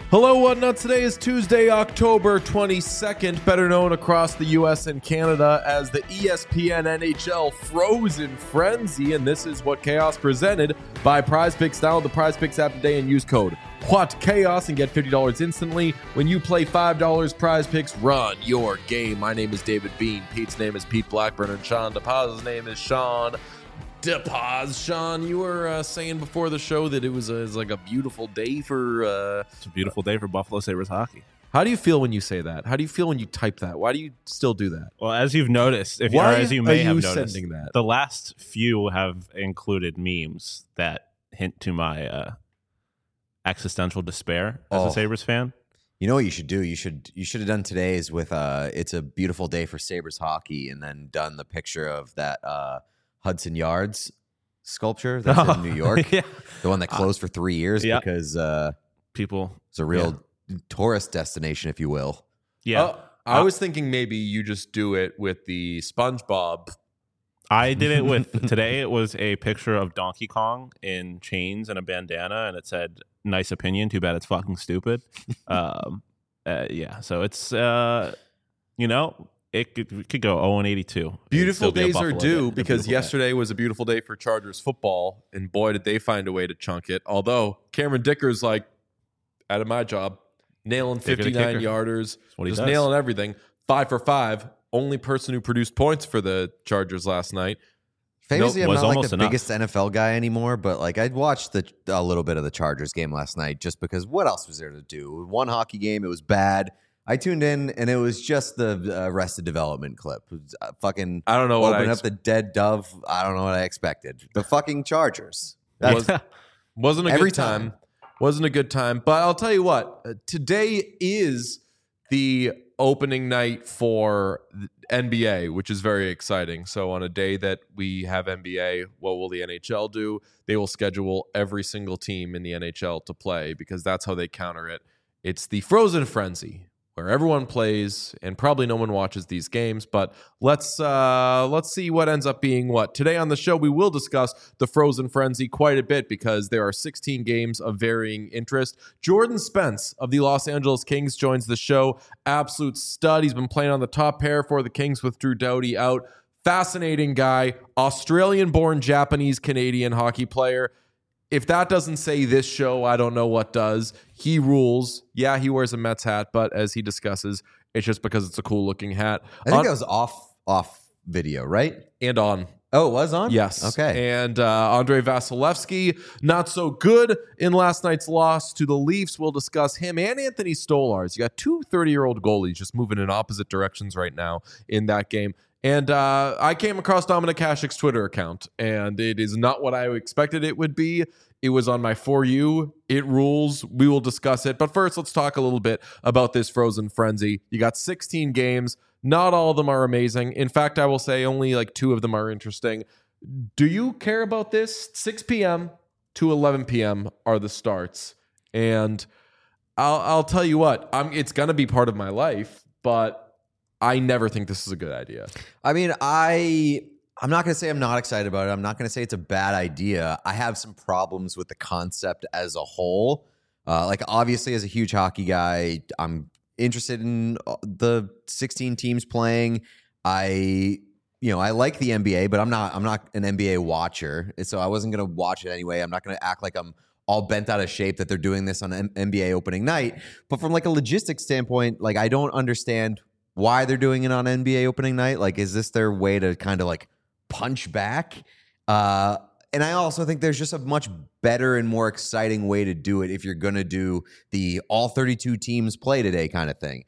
Hello, Whatnot. Today is Tuesday, October 22nd, better known across the U.S. and Canada as the ESPN NHL Frozen Frenzy, and this is What Chaos presented by PrizePicks. Download the PrizePicks app today and use code WHATCHAOS and get $50 instantly when you play $5 PrizePicks. Run your game. My name is David Bean. Pete's name is Pete Blackburn, and Sean DePaz's name is Sean DePaz. Sean, you were saying before the show that it was like a beautiful day for... It's a beautiful day for Buffalo Sabres hockey. How do you feel when you say that? How do you feel when you type that? Why do you still do that? Well, as you've noticed, as you may have noticed, sending that? The last few have included memes that hint to my existential despair as a Sabres fan. You know what you should do? You should have done today's with it's a beautiful day for Sabres hockey, and then done the picture of that Hudson Yards sculpture that's in New York. Yeah. The one that closed for 3 years because people, it's a real tourist destination, if you will. Yeah. I was thinking maybe you just do it with the SpongeBob. I did it with today. It was a picture of Donkey Kong in chains and a bandana, and it said, "Nice opinion. Too bad it's fucking stupid." So it's it could go 0-82. Beautiful days are due day. because yesterday was a beautiful day for Chargers football, and boy, did they find a way to chunk it. Although Cameron Dicker's like, out of my job, nailing 59 yarders, just nailing everything. 5 for 5. Only person who produced points for the Chargers last night. Famously, I'm not like the biggest NFL guy anymore, but like I'd watched a little bit of the Chargers game last night just because what else was there to do? One hockey game, it was bad. I tuned in, and it was just the Arrested Development clip. It was, I don't know what open up the dead dove. I don't know what I expected. The fucking Chargers. Wasn't a good time. Wasn't a good time. But I'll tell you what. Today is the opening night for the NBA, which is very exciting. So on a day that we have NBA, what will the NHL do? They will schedule every single team in the NHL to play because that's how they counter it. It's the Frozen Frenzy, where everyone plays and probably no one watches these games, but let's see what ends up being what. Today on the show, we will discuss the Frozen Frenzy quite a bit because there are 16 games of varying interest. Jordan Spence of the Los Angeles Kings joins the show. Absolute stud. He's been playing on the top pair for the Kings with Drew Doughty out. Fascinating guy. Australian-born Japanese-Canadian hockey player. If that doesn't say this show, I don't know what does. He rules. Yeah, he wears a Mets hat, but as he discusses, it's just because it's a cool-looking hat. I think that was off video, right? And on. Oh, it was on? Yes. Okay. And Andrei Vasilevsky, not so good in last night's loss to the Leafs. We'll discuss him and Anthony Stolarz. You got two 30-year-old goalies just moving in opposite directions right now in that game. And I came across Dominic Hasek's Twitter account, and it is not what I expected it would be. It was on my For You. It rules. We will discuss it. But first, let's talk a little bit about this Frozen Frenzy. You got 16 games. Not all of them are amazing. In fact, I will say only like 2 of them are interesting. Do you care about this? 6 p.m. to 11 p.m. are the starts. And I'll tell you what, it's going to be part of my life, but I never think this is a good idea. I mean, I'm not going to say I'm not excited about it. I'm not going to say it's a bad idea. I have some problems with the concept as a whole. Like, obviously, as a huge hockey guy, I'm interested in the 16 teams playing. I like the NBA, but I'm not an NBA watcher. So I wasn't going to watch it anyway. I'm not going to act like I'm all bent out of shape that they're doing this on NBA opening night. But from like a logistics standpoint, like I don't understand why they're doing it on NBA opening night. Like, is this their way to kind of like punch back? And I also think there's just a much better and more exciting way to do it if you're going to do the all 32 teams play today kind of thing.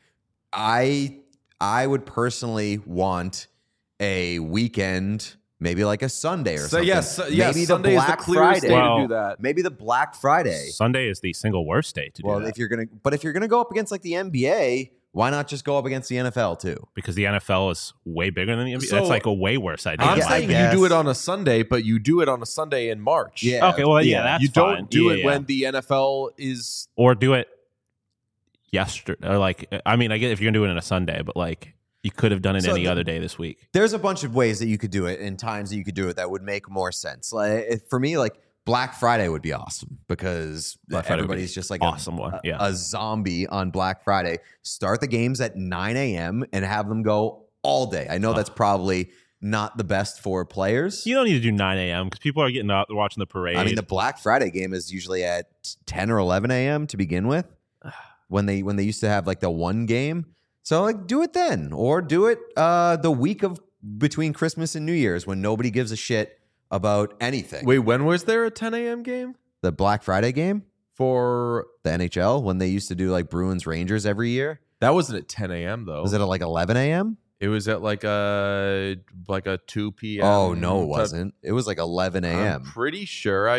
I would personally want a weekend, maybe like a Sunday or something. Yes, maybe Sunday the Black is the clearest Friday. day to do that. Maybe the Black Friday. Sunday is the single worst day to do that. If you're gonna go up against like the NBA, why not just go up against the NFL too? Because the NFL is way bigger than the NBA. So, that's like a way worse idea. I'm Yeah, saying you do it on a Sunday, but you do it on a Sunday in March. Yeah. Okay, well, yeah, that's you fine. don't do it Yeah. when the NFL is... Or do it yesterday. Or like, I mean, I get if you're going to do it on a Sunday, but like, you could have done it any other day this week. There's a bunch of ways that you could do it and times that you could do it that would make more sense. Like for me, like Black Friday would be awesome because everybody's just like awesome a zombie on Black Friday. Start the games at 9 a.m. and have them go all day. I know that's probably not the best for players. You don't need to do 9 a.m. because people are getting up, they're watching the parade. I mean, the Black Friday game is usually at 10 or 11 a.m. to begin with when they used to have like the one game. So like do it then, or do it the week of between Christmas and New Year's when nobody gives a shit about anything. Wait, when was there a 10 a.m. game? The Black Friday game For the NHL when they used to do like Bruins Rangers every year. that wasn't at 10 a.m. though. Was it at like 11 a.m.? It was at like a 2 p.m. Oh, no, it wasn't. It was like 11 I'm a.m. pretty sure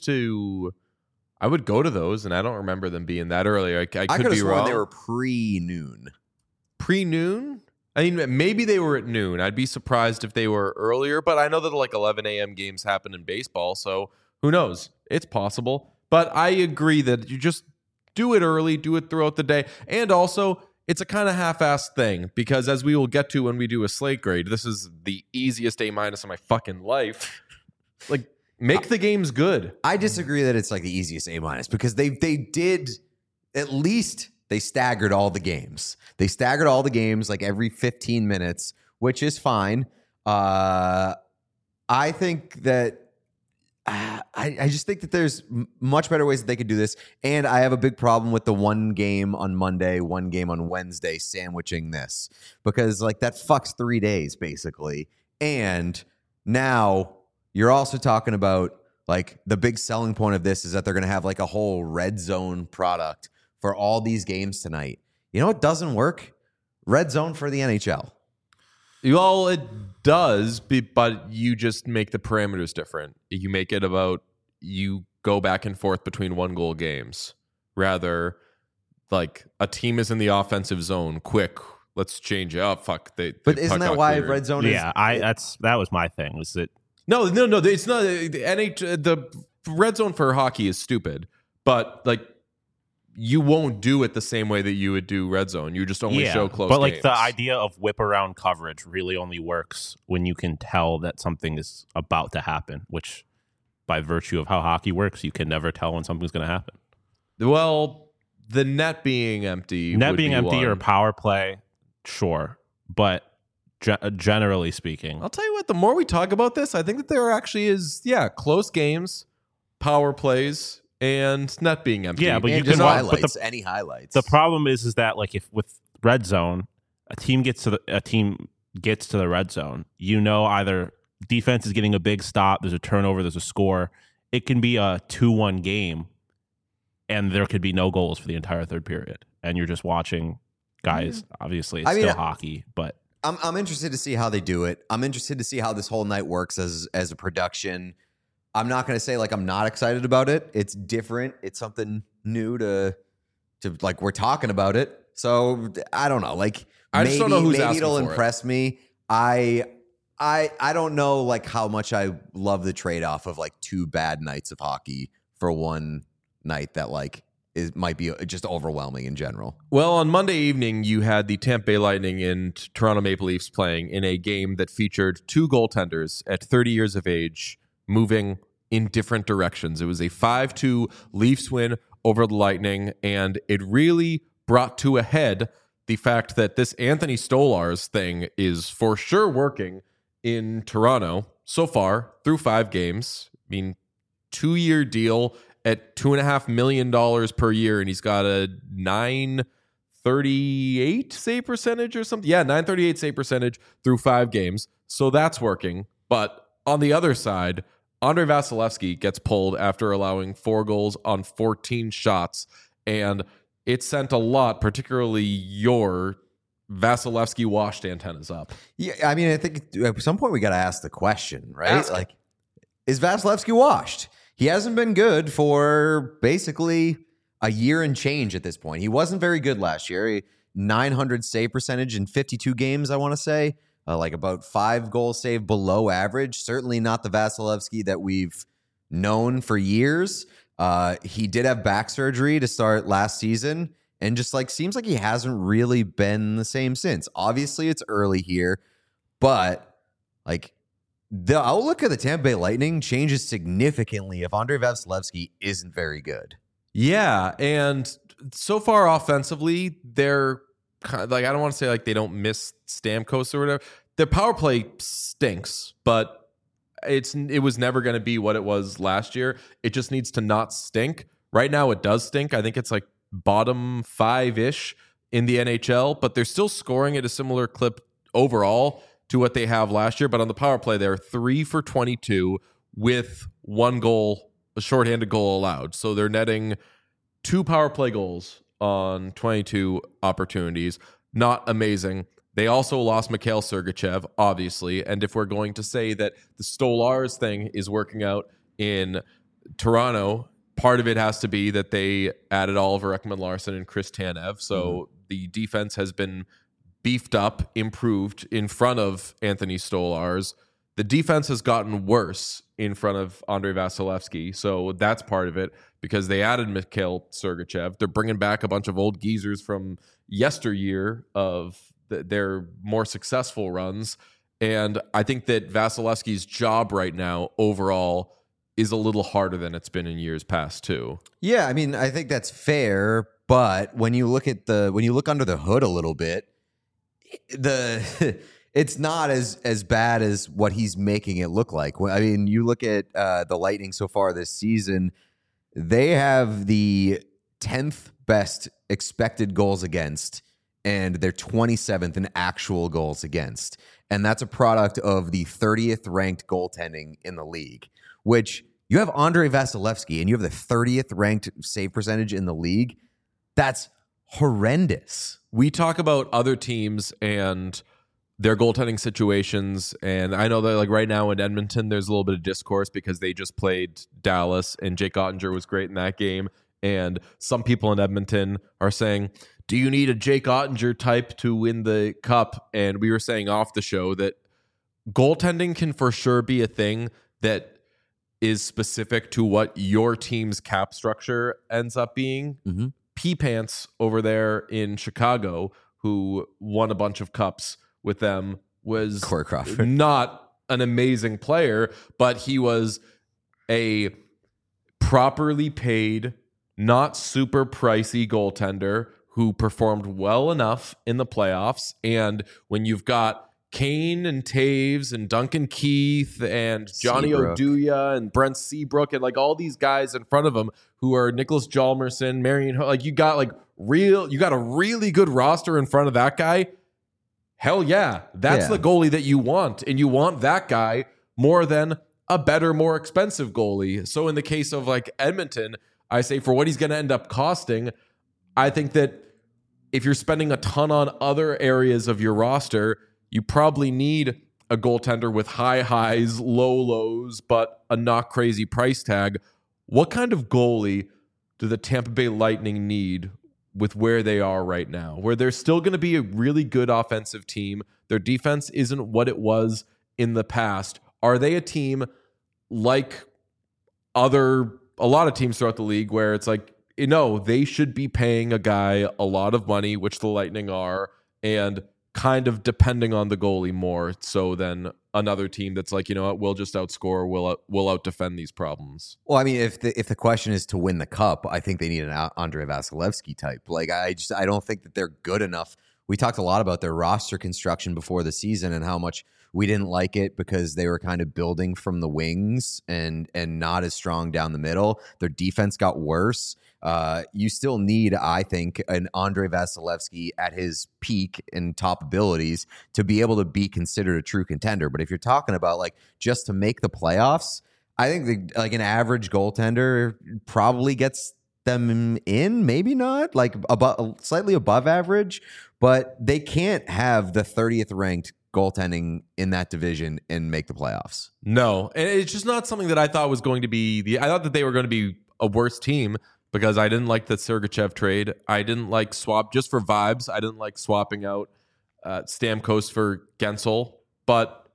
I would go to those, and I don't remember them being that early. I could have be sworn wrong. they were pre-noon. Pre-noon? I mean, maybe they were at noon. I'd be surprised if they were earlier, but I know that like 11 a.m. games happen in baseball, so who knows? It's possible. But I agree that you just do it early, do it throughout the day. And also, it's a kind of half-assed thing because as we will get to when we do a slate grade, this is the easiest A- in my fucking life. Like, make the games good. I disagree that it's like the easiest A- because they did at least they staggered all the games. They staggered all the games like every 15 minutes, which is fine. I think that I just think that there's much better ways that they could do this. And I have a big problem with the one game on Monday, one game on Wednesday sandwiching this because like that fucks 3 days basically. And now you're also talking about like the big selling point of this is that they're going to have like a whole red zone product for all these games tonight. You know what doesn't work? Red zone for the NHL. Well, it does, but you just make the parameters different. You make it about you go back and forth between 1-goal games. Rather, like a team is in the offensive zone, quick. Let's change it up. Fuck. But isn't that why red zone is? Yeah, that was my thing. Was that No, it's not. The red zone for hockey is stupid, but like you won't do it the same way that you would do red zone. You just only show close but like games. the idea of whip around coverage really only works when you can tell that something is about to happen, which by virtue of how hockey works, you can never tell when something's going to happen. Well, the net being empty or power play, sure, but generally speaking, I'll tell you what, the more we talk about this, I think that there actually is, close games, power plays, and net being empty. Yeah, but and you can highlights, any highlights. The problem is that like if with red zone, a team gets to the red zone, you know either defense is getting a big stop, there's a turnover, there's a score. It can be a 2-1 game, and there could be no goals for the entire third period, and you're just watching guys. Obviously, it's still hockey, but I'm interested to see how they do it. I'm interested to see how this whole night works as a production. I'm not going to say like I'm not excited about it. It's different. It's something new to like we're talking about it. So I don't know. Like I just don't know who's maybe asking it'll for impress me. I don't know like how much I love the trade-off of like 2 bad nights of hockey for one night that like might be just overwhelming in general. Well, on Monday evening, you had the Tampa Bay Lightning and Toronto Maple Leafs playing in a game that featured 2 goaltenders at 30 years of age moving in different directions. It was a 5-2 Leafs win over the Lightning, and it really brought to a head the fact that this Anthony Stolarz thing is for sure working in Toronto so far through 5 games. I mean, 2-year deal at $2.5 million per year, and he's got a 938 save percentage or something. Yeah, 938 save percentage through 5 games. So that's working. But on the other side, Andrei Vasilevsky gets pulled after allowing 4 goals on 14 shots, and it sent a lot, particularly your Vasilevsky washed antennas up. Yeah, I mean, I think at some point we got to ask the question, right? Ask like, is Vasilevsky washed? He hasn't been good for basically a year and change at this point. He wasn't very good last year. 900 save percentage in 52 games, I want to say. Like about 5 goals saved below average. Certainly not the Vasilevsky that we've known for years. He did have back surgery to start last season, and just like seems like he hasn't really been the same since. Obviously, it's early here, but like The outlook of the Tampa Bay Lightning changes significantly if Andrei Vasilevskiy isn't very good. Yeah, and so far offensively, they're kind of, like, I don't want to say like they don't miss Stamkos or whatever. Their power play stinks, but it was never going to be what it was last year. It just needs to not stink. Right now, it does stink. I think it's like bottom 5-ish in the NHL, but they're still scoring at a similar clip overall to what they have last year. But on the power play, they're 3 for 22 with 1 goal, a shorthanded goal allowed. So they're netting 2 power play goals on 22 opportunities. Not amazing. They also lost Mikhail Sergachev, obviously. And if we're going to say that the Stolarz thing is working out in Toronto, part of it has to be that they added Oliver Ekman-Larsson and Chris Tanev. So the defense has been beefed up, improved in front of Anthony Stolarz. The defense has gotten worse in front of Andrei Vasilevskiy. So that's part of it because they added Mikhail Sergachev. They're bringing back a bunch of old geezers from yesteryear of their more successful runs. And I think that Vasilevsky's job right now overall is a little harder than it's been in years past too. Yeah, I mean, I think that's fair, but when you look under the hood a little bit, it's not as bad as what he's making it look like. I mean, you look at the Lightning so far this season, they have the 10th best expected goals against, and they're 27th in actual goals against. And that's a product of the 30th ranked goaltending in the league, which you have Andrei Vasilevskiy and you have the 30th ranked save percentage in the league. That's horrendous. We talk about other teams and their goaltending situations, and I know that like right now in Edmonton, there's a little bit of discourse because they just played Dallas and Jake Ottinger was great in that game. And some people in Edmonton are saying, do you need a Jake Ottinger type to win the cup? And we were saying off the show that goaltending can for sure be a thing that is specific to what your team's cap structure ends up being. Mm-hmm. P-Pants over there in Chicago, who won a bunch of cups with them, was Corey Crawford. Not an amazing player, but he was a properly paid, not super pricey goaltender who performed well enough in the playoffs. And when you've got Kane and Taves and Duncan Keith and Johnny Oduya and Brent Seabrook and like all these guys in front of him who are Nicholas Hjalmarsson, Marion, like you got a really good roster in front of that guy. Hell yeah, that's the goalie that you want, and you want that guy more than a better, more expensive goalie. So in the case of like Edmonton, I say for what he's going to end up costing, I think that if you're spending a ton on other areas of your roster, you probably need a goaltender with high highs, low lows, but a not crazy price tag. What kind of goalie do the Tampa Bay Lightning need with where they are right now, where they're still going to be a really good offensive team? Their defense isn't what it was in the past. Are they a team like a lot of teams throughout the league where it's like, they should be paying a guy a lot of money, which the Lightning are, and kind of depending on the goalie more so than another team that's like, we'll just outscore, we'll out-defend these problems. Well, I mean, if the question is to win the cup, I think they need an Andrei Vasilevskiy type. Like, I don't think that they're good enough. We talked a lot about their roster construction before the season and how much we didn't like it because they were kind of building from the wings and not as strong down the middle. Their defense got worse. You still need, I think, an Andrei Vasilevskiy at his peak and top abilities to be able to be considered a true contender. But if you're talking about like just to make the playoffs, I think like an average goaltender probably gets them in, maybe not, like slightly above average, but they can't have the 30th ranked goaltending in that division and make the playoffs. No, and it's just not something that I thought was going to be I thought that they were going to be a worse team because I didn't like the Sergachev trade. I didn't like just for vibes. I didn't like swapping out Stamkos for Gensel, but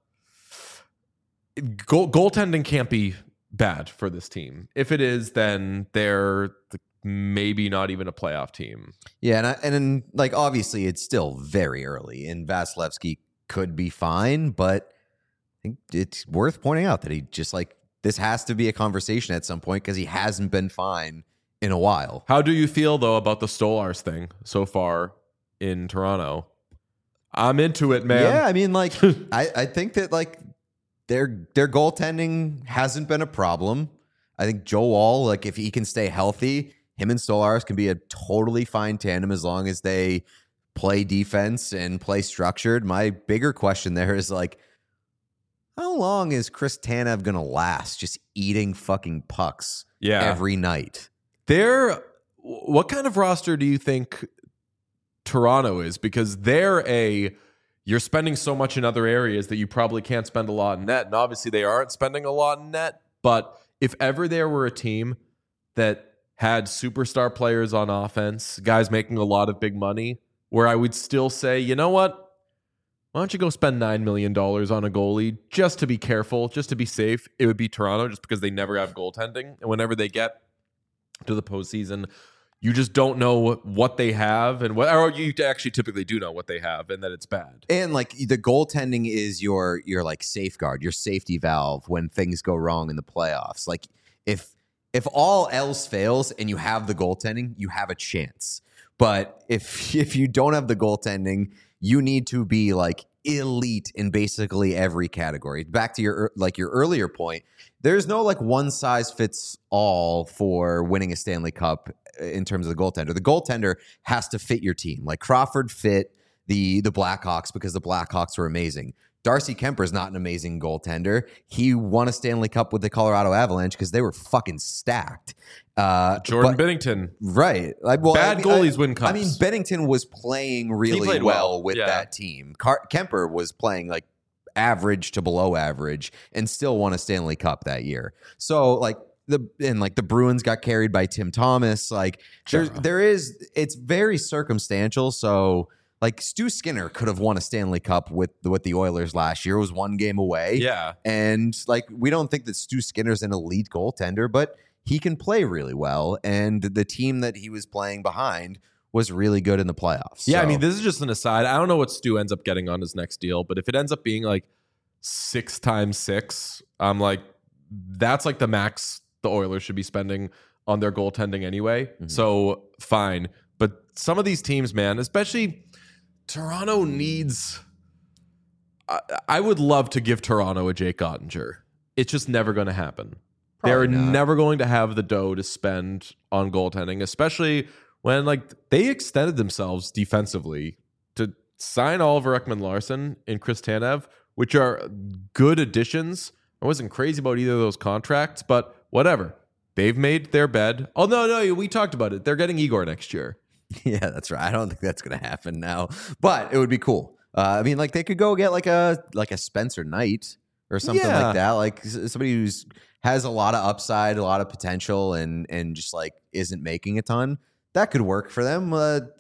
goaltending can't be bad for this team. If it is, then they're maybe not even a playoff team. Yeah, and like obviously it's still very early, and Vasilevskiy could be fine, but think it's worth pointing out that he just like this has to be a conversation at some point because he hasn't been fine in a while. How do you feel though about the Stolarz thing so far in Toronto? I'm into it, man. Yeah, I mean, like I think that like their goaltending hasn't been a problem. I think Joe Woll, like if he can stay healthy, him and Stolarz can be a totally fine tandem as long as they play defense and play structured. My bigger question there is like, how long is Chris Tanev going to last just eating fucking pucks every night? What kind of roster do you think Toronto is? Because you're spending so much in other areas that you probably can't spend a lot in net. And obviously they aren't spending a lot in net. But if ever there were a team that had superstar players on offense, guys making a lot of big money, where I would still say, you know what? Why don't you go spend $9 million on a goalie just to be careful, just to be safe? It would be Toronto just because they never have goaltending. And whenever they get to the postseason, you just don't know what they have and or you actually typically do know what they have and that it's bad. And like the goaltending is your like safeguard, your safety valve when things go wrong in the playoffs. Like if all else fails and you have the goaltending, you have a chance. But if you don't have the goaltending, you need to be like elite in basically every category. Back to your earlier point, there's no like one size fits all for winning a Stanley Cup in terms of the goaltender. The goaltender has to fit your team. Like Crawford fit the Blackhawks because the Blackhawks were amazing. Darcy Kemper is not an amazing goaltender. He won a Stanley Cup with the Colorado Avalanche because they were fucking stacked. Jordan Binnington. Right. Bad goalies win cups. I mean, Binnington was playing really well with that team. Kemper was playing like average to below average and still won a Stanley Cup that year. So like the Bruins got carried by Tim Thomas. Like it's very circumstantial. So like Stu Skinner could have won a Stanley Cup with the Oilers last year. It was one game away. Yeah. And like we don't think that Stu Skinner's an elite goaltender, but he can play really well. And the team that he was playing behind was really good in the playoffs. Yeah, so. I mean, this is just an aside. I don't know what Stu ends up getting on his next deal, but if it ends up being like 6 times 6, I'm like, that's like the max the Oilers should be spending on their goaltending anyway. Mm-hmm. So fine. But some of these teams, man, especially Toronto needs... I would love to give Toronto a Jake Ottinger. It's just never going to happen. They're never going to have the dough to spend on goaltending, especially when like they extended themselves defensively to sign Oliver Ekman-Larsson and Chris Tanev, which are good additions. I wasn't crazy about either of those contracts, but whatever. They've made their bed. Oh, no, we talked about it. They're getting Igor next year. Yeah, that's right. I don't think that's going to happen now, but it would be cool. I mean, like they could go get like a Spencer Knight or something like that. Like somebody who's has a lot of upside, a lot of potential, and just like isn't making a ton. That could work for them.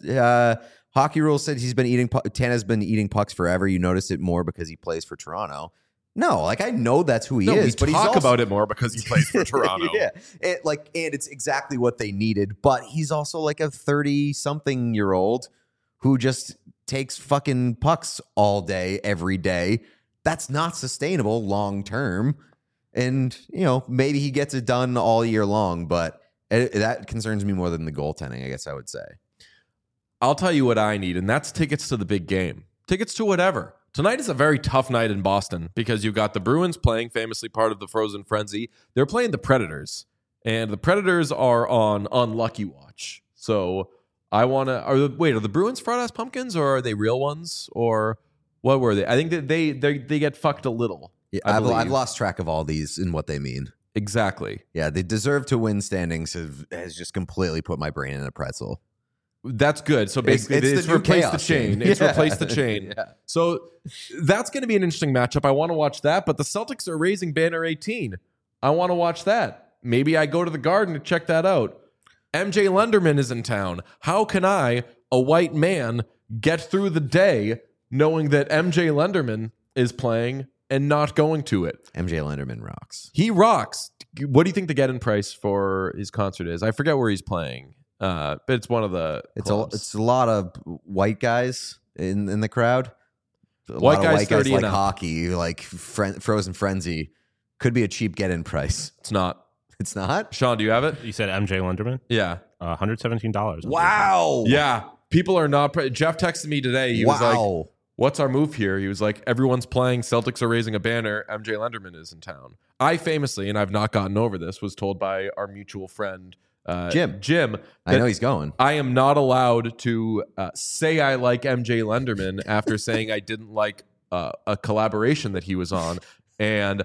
Hockey Rules said Tanev's been eating pucks forever. You notice it more because he plays for Toronto. No, like I know that's who he is. But talk about it more because he plays for Toronto. Yeah, and it's exactly what they needed. But he's also like a 30-something-year-old who just takes fucking pucks all day, every day. That's not sustainable long term. And maybe he gets it done all year long, but that concerns me more than the goaltending, I guess I would say. I'll tell you what I need, and that's tickets to the big game. Tickets to whatever. Tonight is a very tough night in Boston because you've got the Bruins playing, famously part of the Frozen Frenzy. They're playing the Predators, and the Predators are on unlucky watch. So I want to... Are the Bruins fraud-ass pumpkins, or are they real ones? Or what were they? I think that they get fucked a little. Yeah, I've lost track of all these and what they mean. Exactly. Yeah, they deserve to win standings has just completely put my brain in a pretzel. That's good. So basically, it's replaced the chain. It's replaced the chain. Yeah. So that's going to be an interesting matchup. I want to watch that, but the Celtics are raising banner 18. I want to watch that. Maybe I go to the Garden to check that out. MJ Lenderman is in town. How can I, a white man, get through the day knowing that MJ Lenderman is playing and not going to it? MJ Lenderman rocks. He rocks. What do you think the get-in price for his concert is? I forget where he's playing. But it's one of the it's a lot of white guys in the crowd. a lot of white guys 30 like and up. hockey, like Frozen Frenzy. Could be a cheap get-in price. It's not. It's not? Sean, do you have it? You said MJ Lenderman? Yeah. $117. Wow. Yeah. People are not. Jeff texted me today. He was like, what's our move here? He was like, everyone's playing. Celtics are raising a banner. MJ Lenderman is in town. I famously, and I've not gotten over this, was told by our mutual friend, Jim. I know he's going. I am not allowed to say I like MJ Lenderman after saying I didn't like a collaboration that he was on. And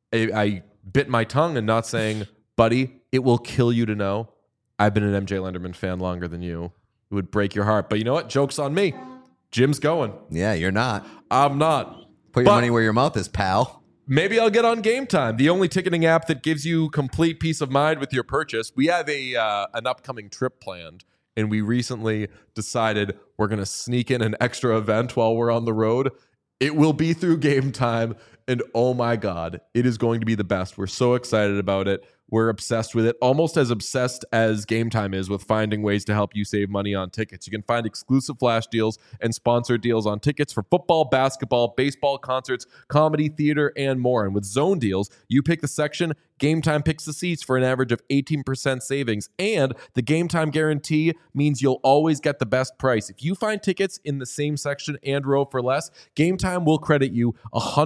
I bit my tongue and not saying, buddy, it will kill you to know I've been an MJ Lenderman fan longer than you. It would break your heart. But you know what? Joke's on me. Jim's going. Yeah, you're not. I'm not. Put your money where your mouth is, pal. Maybe I'll get on Game Time, the only ticketing app that gives you complete peace of mind with your purchase. We have an upcoming trip planned, and we recently decided we're going to sneak in an extra event while we're on the road. It will be through Game Time, and oh my God, it is going to be the best. We're so excited about it. We're obsessed with it, almost as obsessed as Game Time is with finding ways to help you save money on tickets. You can find exclusive flash deals and sponsored deals on tickets for football, basketball, baseball, concerts, comedy, theater, and more. And with Zone Deals, you pick the section, Game Time picks the seats for an average of 18% savings. And the Game Time guarantee means you'll always get the best price. If you find tickets in the same section and row for less, Game Time will credit you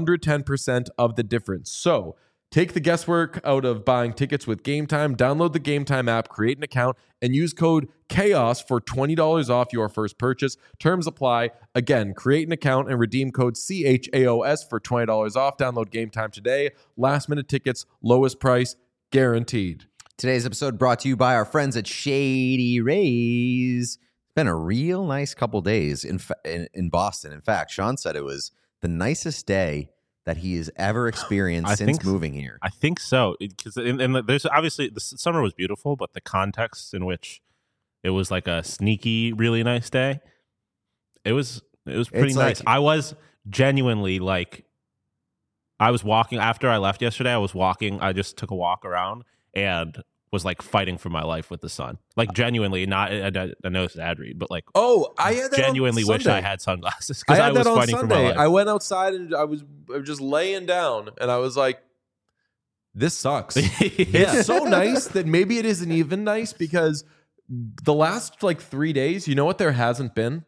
110% of the difference. So, take the guesswork out of buying tickets with Game Time. Download the Game Time app, create an account, and use code CHAOS for $20 off your first purchase. Terms apply. Again, create an account and redeem code CHAOS for $20 off. Download Game Time today. Last minute tickets, lowest price, guaranteed. Today's episode brought to you by our friends at Shady Rays. It's been a real nice couple days in Boston. In fact, Sean said it was the nicest day that he has ever experienced since moving here. I think so, because there's obviously the summer was beautiful, but the context in which it was like a sneaky, really nice day, it was pretty nice. I was genuinely like, I was walking after I left yesterday. I just took a walk around and was like fighting for my life with the sun. Like genuinely, not I know it's an ad read, but like, I had that genuinely wish I had sunglasses because I was fighting for my life. I went outside and I was just laying down and I was like, this sucks. It's so nice that maybe it isn't even nice because the last like 3 days, you know what there hasn't been?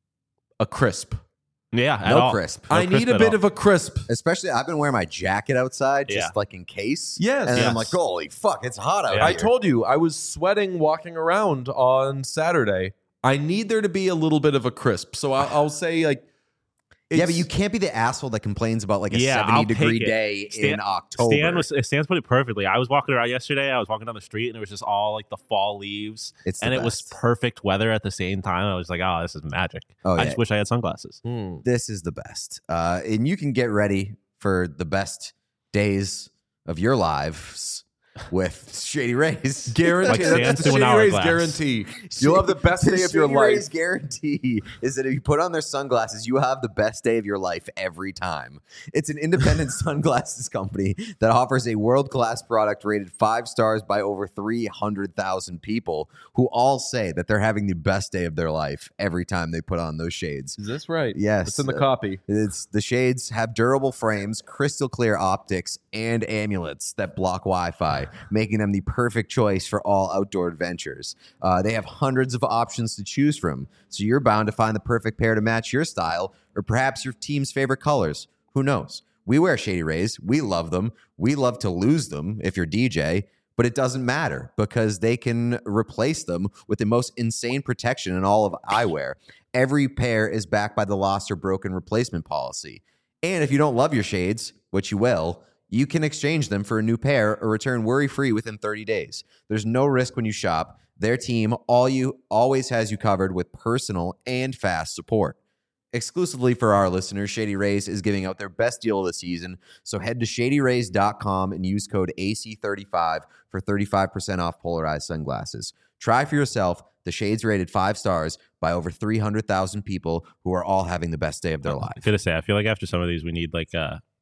A crisp. Yeah, no crisp. I need a bit of a crisp. Especially, I've been wearing my jacket outside just like in case. Yes. And then I'm like, holy fuck, it's hot out here. I told you, I was sweating walking around on Saturday. I need there to be a little bit of a crisp. So I'll say like, yeah, but you can't be the asshole that complains about like a 70-degree day in October. Stan put it perfectly. I was walking around yesterday. I was walking down the street, and it was just all like the fall leaves. It was perfect weather at the same time. I was like, oh, this is magic. I just wish I had sunglasses. This is the best. And you can get ready for the best days of your lives with Shady Rays. Guarantee. Like That's the Shady Rays guarantee. You'll have the best day of your life. Shady Rays guarantee is that if you put on their sunglasses, you have the best day of your life every time. It's an independent sunglasses company that offers a world-class product rated 5 stars by over 300,000 people who all say that they're having the best day of their life every time they put on those shades. Is this right? Yes. It's in the copy. The shades have durable frames, crystal clear optics, and amulets that block Wi-Fi, making them the perfect choice for all outdoor adventures. They have hundreds of options to choose from, so you're bound to find the perfect pair to match your style or perhaps your team's favorite colors. Who knows? We wear Shady Rays. We love them. We love to lose them if you're DJ, but it doesn't matter because they can replace them with the most insane protection in all of eyewear. Every pair is backed by the lost or broken replacement policy. And if you don't love your shades, which you will, you can exchange them for a new pair or return worry-free within 30 days. There's no risk when you shop. Their team always has you covered with personal and fast support. Exclusively for our listeners, Shady Rays is giving out their best deal of the season. So head to shadyrays.com and use code AC35 for 35% off polarized sunglasses. Try for yourself the shades rated 5 stars by over 300,000 people who are all having the best day of their life. I gotta say, I feel like after some of these, we need like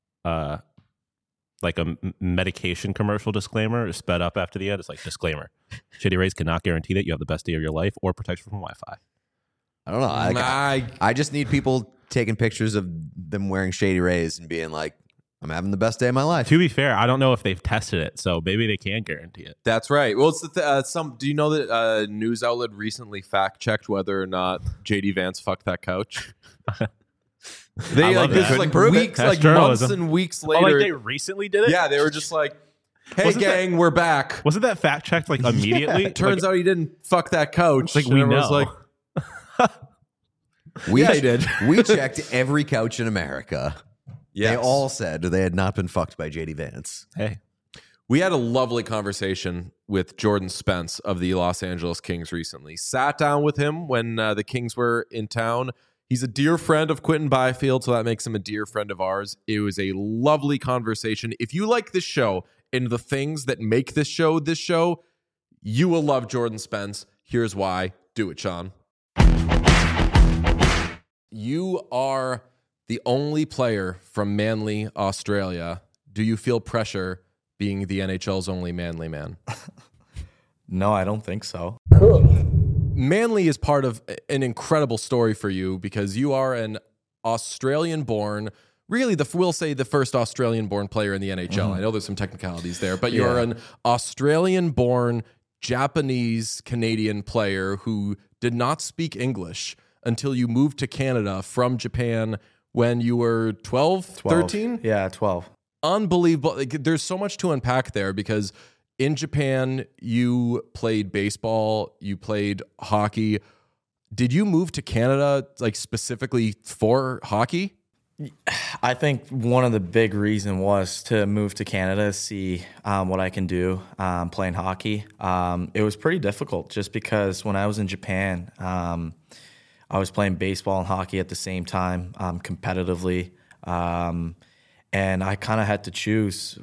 a medication commercial disclaimer sped up after the end. It's like, disclaimer, Shady Rays cannot guarantee that you have the best day of your life or protection from Wi-Fi. I don't know. I just need people taking pictures of them wearing Shady Rays and being like, I'm having the best day of my life. To be fair, I don't know if they've tested it, so maybe they can guarantee it. That's right. Well, it's do you know that a news outlet recently fact checked whether or not JD Vance fucked that couch? They love this that. is like Prove it. weeks, That's like journalism. months and weeks Oh, later. like they recently did it? yeah, they were just like, "Hey, Wasn't gang, we're back." Wasn't that fact checked like immediately? Turns out he didn't fuck that couch. like And we everyone's know. like, We he did. We checked every couch in America. Yes. They all said they had not been fucked by JD Vance. Hey, We had a lovely conversation with Jordan Spence of the Los Angeles Kings recently. Sat down with him when the Kings were in town. He's a dear friend of Quentin Byfield, so that makes him a dear friend of ours. It was a lovely conversation. If you like this show and the things that make this show, you will love Jordan Spence. Here's why. Do it, Sean. You are the only player from Manly, Australia. Do you feel pressure being the NHL's only Manly man? No, I don't think so. Manly is part of an incredible story for you because you are an Australian-born, really, we'll say the first Australian-born player in the NHL. I know there's some technicalities there, but you're an Australian-born Japanese-Canadian player who did not speak English until you moved to Canada from Japan when you were 12, 13? Yeah, 12. Unbelievable. Like, there's so much to unpack there because in Japan, you played baseball, you played hockey. Did you move to Canada like specifically for hockey? I think one of the big reason was to move to Canada to see what I can do playing hockey. It was pretty difficult just because when I was in Japan, I was playing baseball and hockey at the same time competitively. And I kind of had to choose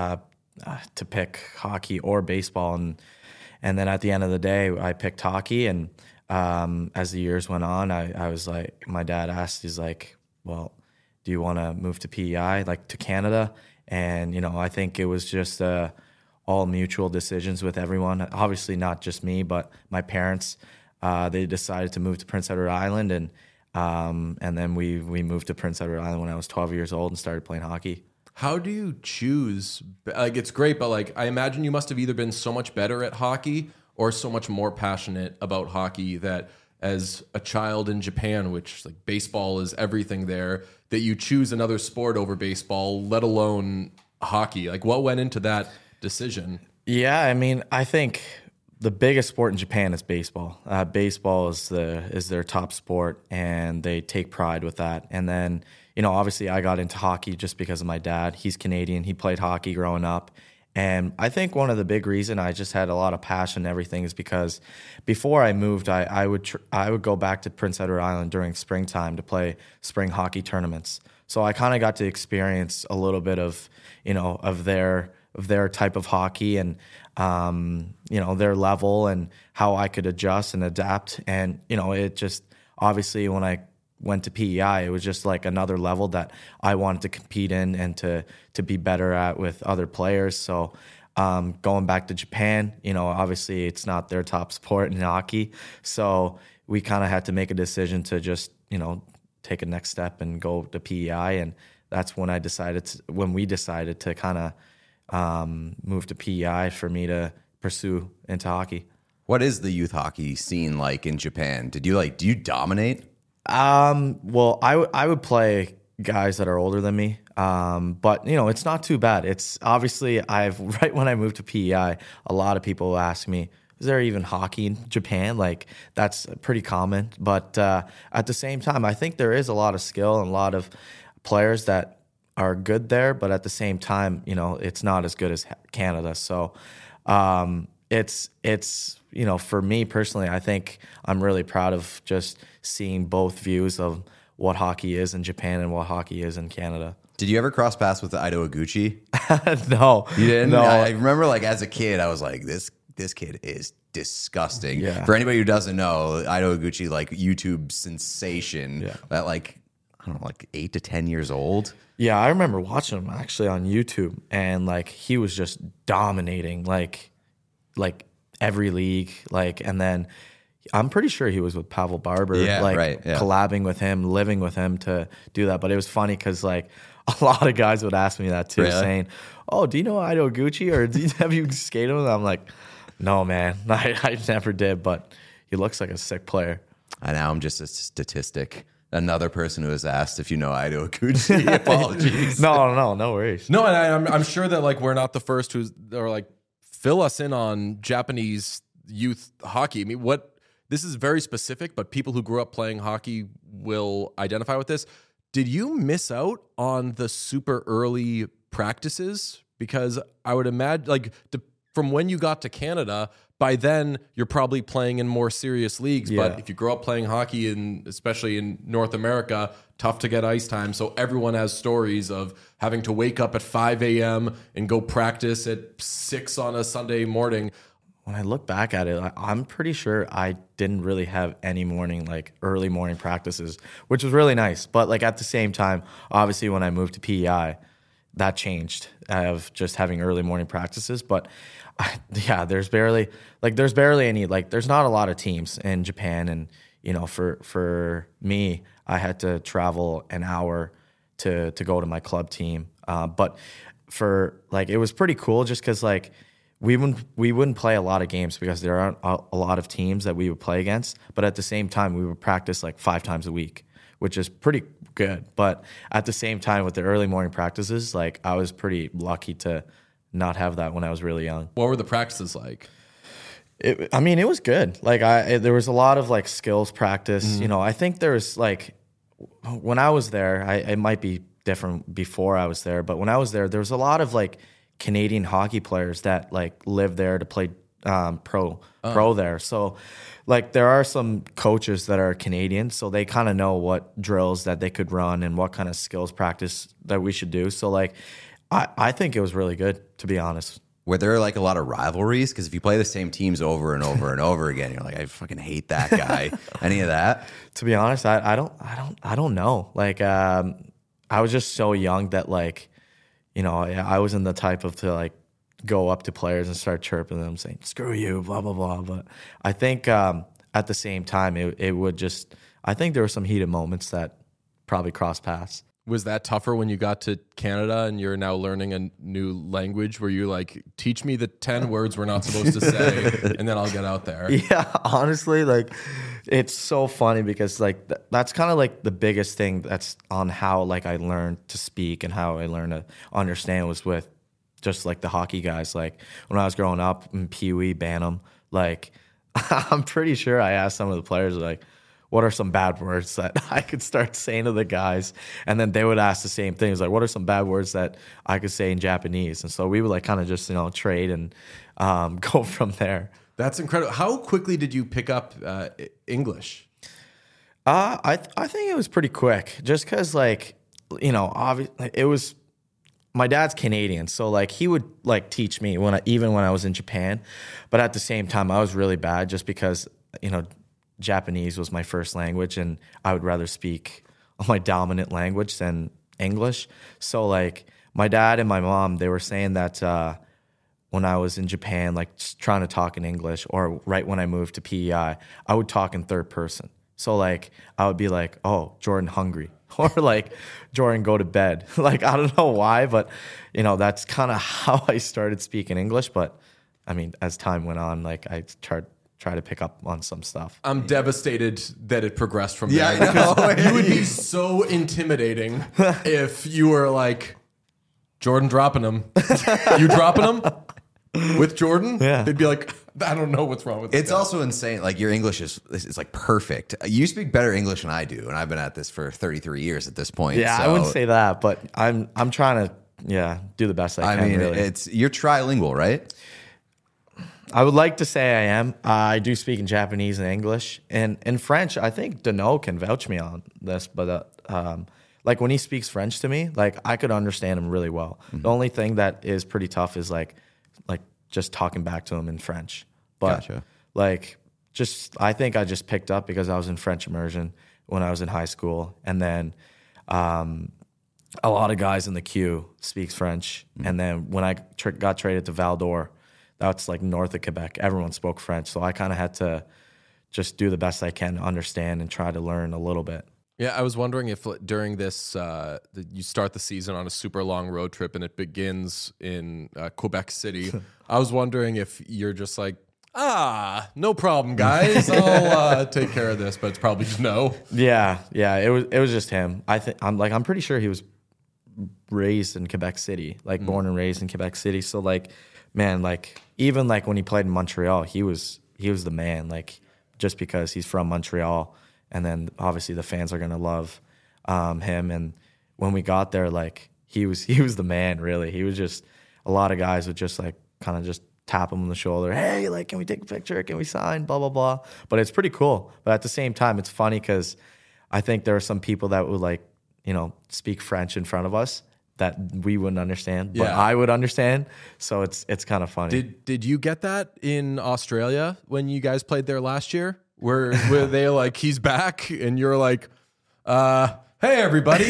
to pick hockey or baseball. And then at the end of the day, I picked hockey. And as the years went on, I was like, my dad asked, he's like, well, do you want to move to PEI, like to Canada? And, I think it was just all mutual decisions with everyone. Obviously not just me, but my parents. They decided to move to Prince Edward Island. And then we moved to Prince Edward Island when I was 12 years old and started playing hockey. How do you choose? Like, it's great, but like, I imagine you must have either been so much better at hockey or so much more passionate about hockey that as a child in Japan, which like baseball is everything there, that you choose another sport over baseball, let alone hockey. Like, what went into that decision? Yeah, I mean, I think the biggest sport in Japan is baseball. Baseball is their top sport, and they take pride with that. And then, obviously I got into hockey just because of my dad. He's Canadian. He played hockey growing up. And I think one of the big reason I just had a lot of passion and everything is because before I moved, I would go back to Prince Edward Island during springtime to play spring hockey tournaments. So I kind of got to experience a little bit of, of their type of hockey and, their level and how I could adjust and adapt. And, it just obviously when I went to PEI, it was just like another level that I wanted to compete in and to be better at with other players. So going back to Japan, obviously it's not their top sport in hockey. So we kind of had to make a decision to just, take a next step and go to PEI. And that's when we decided to kind of move to PEI for me to pursue into hockey. What is the youth hockey scene like in Japan? Do you dominate? Well, I would play guys that are older than me. But it's not too bad. It's obviously right when I moved to PEI, a lot of people ask me, is there even hockey in Japan? Like that's pretty common. But at the same time, I think there is a lot of skill and a lot of players that are good there. But at the same time, it's not as good as Canada. So it's for me personally, I think I'm really proud of just seeing both views of what hockey is in Japan and what hockey is in Canada. Did you ever cross paths with Ido Iguchi? No. You didn't? No. I remember as a kid, I was like, this kid is disgusting. Yeah. For anybody who doesn't know, Ido Iguchi, YouTube sensation at 8 to 10 years old. Yeah, I remember watching him actually on YouTube, and he was just dominating like every league, and then I'm pretty sure he was with Pavel Barber, collabing with him, living with him to do that. But it was funny because like a lot of guys would ask me that too, saying, "Oh, do you know Ido Gucci, or have you skated with him?" I'm like, "No, man, I never did." But he looks like a sick player. And now I'm just a statistic. Another person who has asked if you know Ido Gucci. Apologies. No worries. No, and I'm sure that like we're not the first or like fill us in on Japanese youth hockey. I mean, this is very specific, but people who grew up playing hockey will identify with this. Did you miss out on the super early practices? Because I would imagine, like, from when you got to Canada, by then you're probably playing in more serious leagues. Yeah. But if you grow up playing hockey, especially in North America, tough to get ice time. So everyone has stories of having to wake up at 5 a.m. and go practice at 6 on a Sunday morning. When I look back at it, I'm pretty sure I didn't really have any early morning practices, which was really nice. But like at the same time, obviously when I moved to PEI, that changed of just having early morning practices. But there's barely any, there's not a lot of teams in Japan. And, you know, for me, I had to travel an hour to go to my club team. But it was pretty cool just because we wouldn't play a lot of games because there aren't a lot of teams that we would play against. But at the same time, we would practice 5 times a week, which is pretty good. But at the same time, with the early morning practices, I was pretty lucky to not have that when I was really young. What were the practices like? It was good. There was a lot of skills practice. You know, I think there's when I was there, it might be different before I was there, but when I was there was a lot of Canadian hockey players that live there to play pro there. So there are some coaches that are Canadian, so they kind of know what drills that they could run and what kind of skills practice that we should do. So I think it was really good, to be honest. Were there a lot of rivalries? Because if you play the same teams over and over and over again, you're like, I fucking hate that guy. Any of that? To be honest, I don't know. I was just so young that you know, I wasn't the type of to go up to players and start chirping them, saying "screw you," blah blah blah. But I think at the same time, it would just. I think there were some heated moments that probably crossed paths. Was that tougher when you got to Canada and you're now learning a new language? Where you teach me the 10 words we're not supposed to say, and then I'll get out there? Yeah, honestly, it's so funny because that's kind of the biggest thing that's on how I learned to speak and how I learned to understand was with just the hockey guys. When I was growing up in Pee Wee, Bantam, I'm pretty sure I asked some of the players what are some bad words that I could start saying to the guys? And then they would ask the same things, what are some bad words that I could say in Japanese? And so we would kind of just, trade and go from there. That's incredible. How quickly did you pick up English? I think it was pretty quick just because, obviously it was, my dad's Canadian. So he would teach me even when I was in Japan. But at the same time, I was really bad just because, Japanese was my first language, and I would rather speak my dominant language than English. So my dad and my mom, they were saying that when I was in Japan, just trying to talk in English, or right when I moved to PEI, I would talk in third person. So I would be "Oh, Jordan hungry," or "Jordan go to bed." I don't know why, but that's kind of how I started speaking English. But I mean, as time went on, I try to pick up on some stuff. I'm devastated that it progressed from there. Yeah, you would be so intimidating if you were Jordan dropping him. You dropping him with Jordan? Yeah. They'd be I don't know what's wrong with this It's guy. also insane. Your English is perfect. You speak better English than I do, and I've been at this for 33 years at this point. Yeah, so. I wouldn't say that, but I'm trying to do the best I can. I mean, really. You're trilingual, right? I would like to say I am. I do speak in Japanese and English. And in French, I think Dano can vouch me on this. But when he speaks French to me, I could understand him really well. Mm-hmm. The only thing that is pretty tough is just talking back to him in French. But gotcha. I think I just picked up because I was in French immersion when I was in high school. And then a lot of guys in the queue speaks French. Mm-hmm. And then when I got traded to Val d'Or, that's north of Quebec, everyone spoke French. So I kind of had to just do the best I can to understand and try to learn a little bit. Yeah, I was wondering if during this, you start the season on a super long road trip and it begins in Quebec City. I was wondering if you're just like, no problem, guys. I'll take care of this, but it's probably just no. Yeah, it was just him. I'm pretty sure he was raised in Quebec City, like born and raised in Quebec City. So like, man, like even like when he played in Montreal, he was the man. Like just because he's from Montreal. And then obviously the fans are gonna love him. And when we got there, like he was the man. Really, he was just a lot of guys would just like kind of just tap him on the shoulder. Hey, like, can we take a picture? Can we sign? Blah blah blah. But it's pretty cool. But at the same time, it's funny because I think there are some people that would like speak French in front of us that we wouldn't understand, but I would understand. So it's kind of funny. Did you get that in Australia when you guys played there last year? Where they like, he's back, and you're like, hey everybody.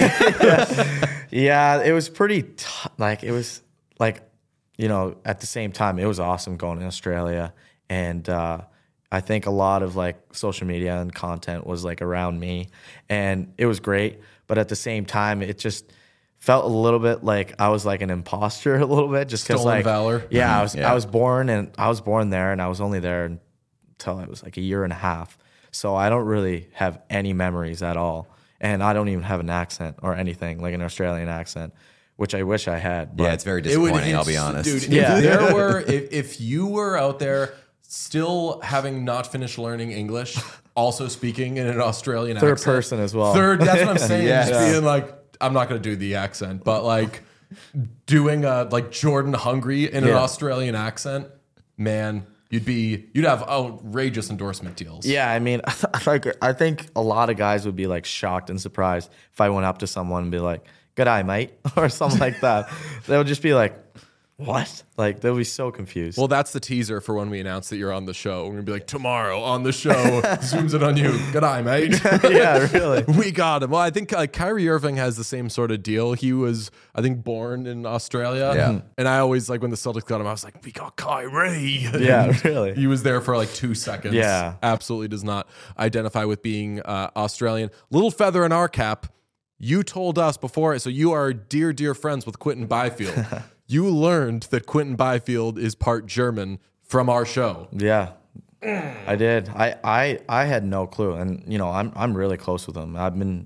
Yeah, it was pretty like it was like, at the same time it was awesome going to Australia, and I think a lot of like social media and content was like around me, and it was great, but at the same time it just felt a little bit like I was like an imposter a little bit, just because like valor. Yeah, I was born there, and I was only there until I was like a year and a half. So I don't really have any memories at all. And I don't even have an accent or anything, like an Australian accent, which I wish I had. But yeah, it's very disappointing, I'll be honest. Dude, if you were out there still having not finished learning English, also speaking in an Australian accent. Third person as well. That's what I'm saying. Just being like, I'm not going to do the accent, but like doing like Jordan Hungry in an Australian accent, man, you'd have outrageous endorsement deals. Yeah, I mean, I think a lot of guys would be like shocked and surprised if I went up to someone and be like, "Good eye, mate," or something like that. They would just be like, "What?" Like they'll be so confused. Well, that's the teaser for when we announce that you're on the show. We're gonna be like, tomorrow on the show, zooms it on you. Good eye, mate. Yeah, really. We got him. Well, I think Kyrie Irving has the same sort of deal. He was, I think, born in Australia. Yeah. And I always, like, when the Celtics got him, I was like, we got Kyrie. Yeah, really. He was there for like 2 seconds. Yeah. Absolutely does not identify with being Australian. Little feather in our cap. You told us before, so you are dear, dear friends with Quinton Byfield. You learned that Quinton Byfield is part German from our show. Yeah, I did. I had no clue, and I'm really close with him. I've been,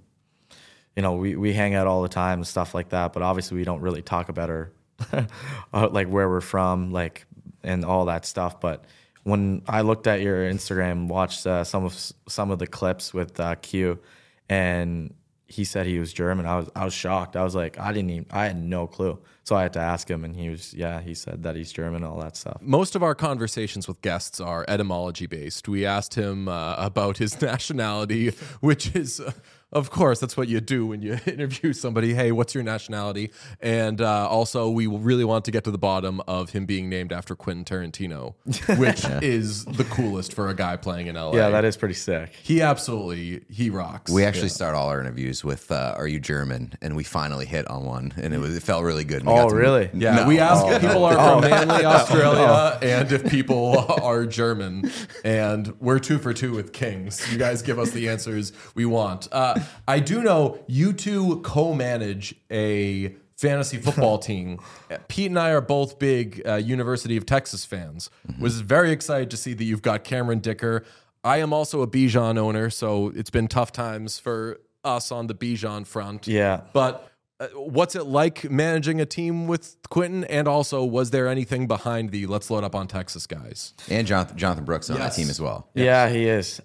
we hang out all the time and stuff like that. But obviously, we don't really talk about our like where we're from, like and all that stuff. But when I looked at your Instagram, watched some of the clips with Q, and he said he was German, I was shocked. I was like, I had no clue. So I had to ask him, and he said that he's German, all that stuff. Most of our conversations with guests are etymology based. We asked him about his nationality, which is, of course, that's what you do when you interview somebody. Hey, what's your nationality? And also, we really want to get to the bottom of him being named after Quentin Tarantino, which is the coolest for a guy playing in LA. Yeah, that is pretty sick. He rocks. We actually start all our interviews with "Are you German?" and we finally hit on one, and it felt really good. Oh, really? Yeah, No. we ask if people are from Manly, Australia, and if people are German, and we're 2 for 2 with Kings. You guys give us the answers we want. I do know you two co-manage a fantasy football team. Pete and I are both big University of Texas fans. Was very excited to see that you've got Cameron Dicker. I am also a Bijan owner, so it's been tough times for us on the Bijan front. Yeah. But what's it like managing a team with Quinton? And also, was there anything behind the let's load up on Texas guys? And Jonathan Brooks on that team as well. Yeah, he is.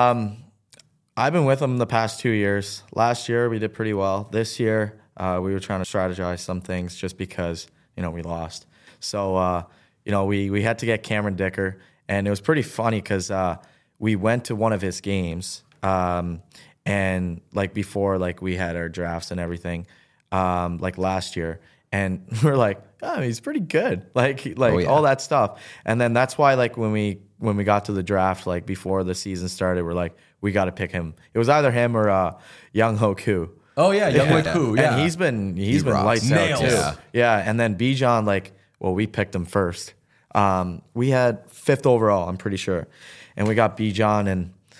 I've been with him the past 2 years. Last year, we did pretty well. This year, we were trying to strategize some things just because, we lost. So, we had to get Cameron Dicker. And it was pretty funny because we went to one of his games. And, like, before, like, we had our drafts and everything, like, last year. And we're like, oh, he's pretty good. All that stuff. And then that's why, like, when we got to the draft, like, before the season started, we're like, we got to pick him. It was either him or Young Ho Koo. Oh yeah, Young Ho Koo. Yeah, and he's been lights out too. Yeah, and then Bijan, we picked him first. We had 5th overall, I'm pretty sure, and we got Bijan, and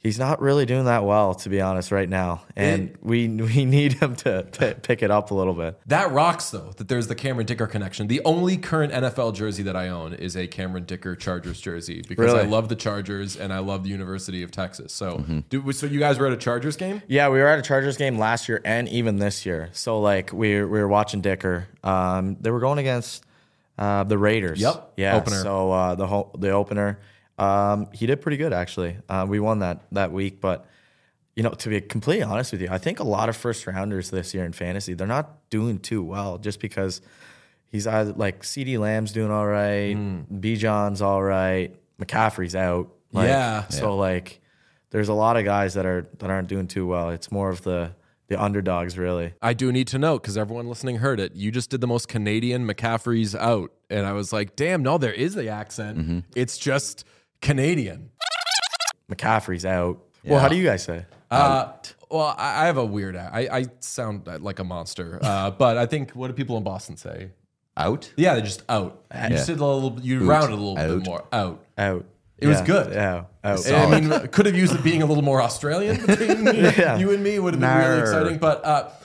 He's not really doing that well, to be honest, right now, and we need him to pick it up a little bit. That rocks, though, that there's the Cameron Dicker connection. The only current NFL jersey that I own is a Cameron Dicker Chargers jersey because I love the Chargers and I love the University of Texas. So, so you guys were at a Chargers game? Yeah, we were at a Chargers game last year and even this year. So, like, we were watching Dicker. They were going against the Raiders. Yep. Yeah. Opener. So the opener. He did pretty good, actually. We won that week, but to be completely honest with you, I think a lot of first rounders this year in fantasy, they're not doing too well just because he's either like CeeDee Lamb's doing all right, Bijan's all right, McCaffrey's out. So like there's a lot of guys that aren't doing too well. It's more of the underdogs, really. I do need to note, because everyone listening heard it, you just did the most Canadian McCaffrey's out. And I was like, damn, no, there is the accent. It's just Canadian. McCaffrey's out. Yeah. Well, how do you guys say? Well, I have a weird. I sound like a monster. But I think, what do people in Boston say? Out? Yeah, they're just out. You just did a little. You rounded a little bit more. Out. It was good. Yeah. Out. I mean, could have used it being a little more Australian between you and me. Would have been really exciting. But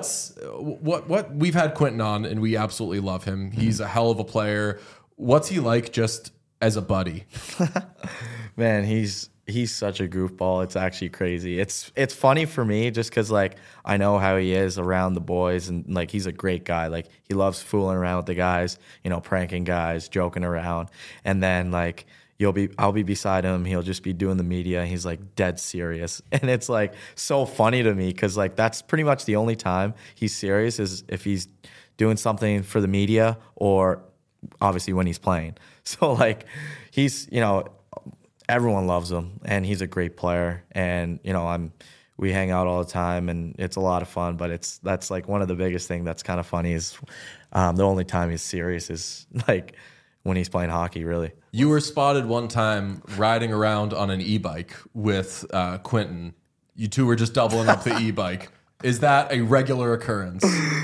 what we've had Quentin on, and we absolutely love him. He's a hell of a player. What's he like just as a buddy? Man, he's such a goofball. It's actually crazy. It's funny for me just because like I know how he is around the boys, and like he's a great guy. Like he loves fooling around with the guys, pranking guys, joking around, and then like I'll be beside him. He'll just be doing the media. And he's like dead serious, and it's like so funny to me because like that's pretty much the only time he's serious is if he's doing something for the media or obviously when he's playing. So like he's everyone loves him, and he's a great player. And we hang out all the time, and it's a lot of fun. But that's like one of the biggest thing that's kind of funny is the only time he's serious is like when he's playing hockey. Really, you were spotted one time riding around on an e-bike with Quentin. You two were just doubling up the e-bike. Is that a regular occurrence?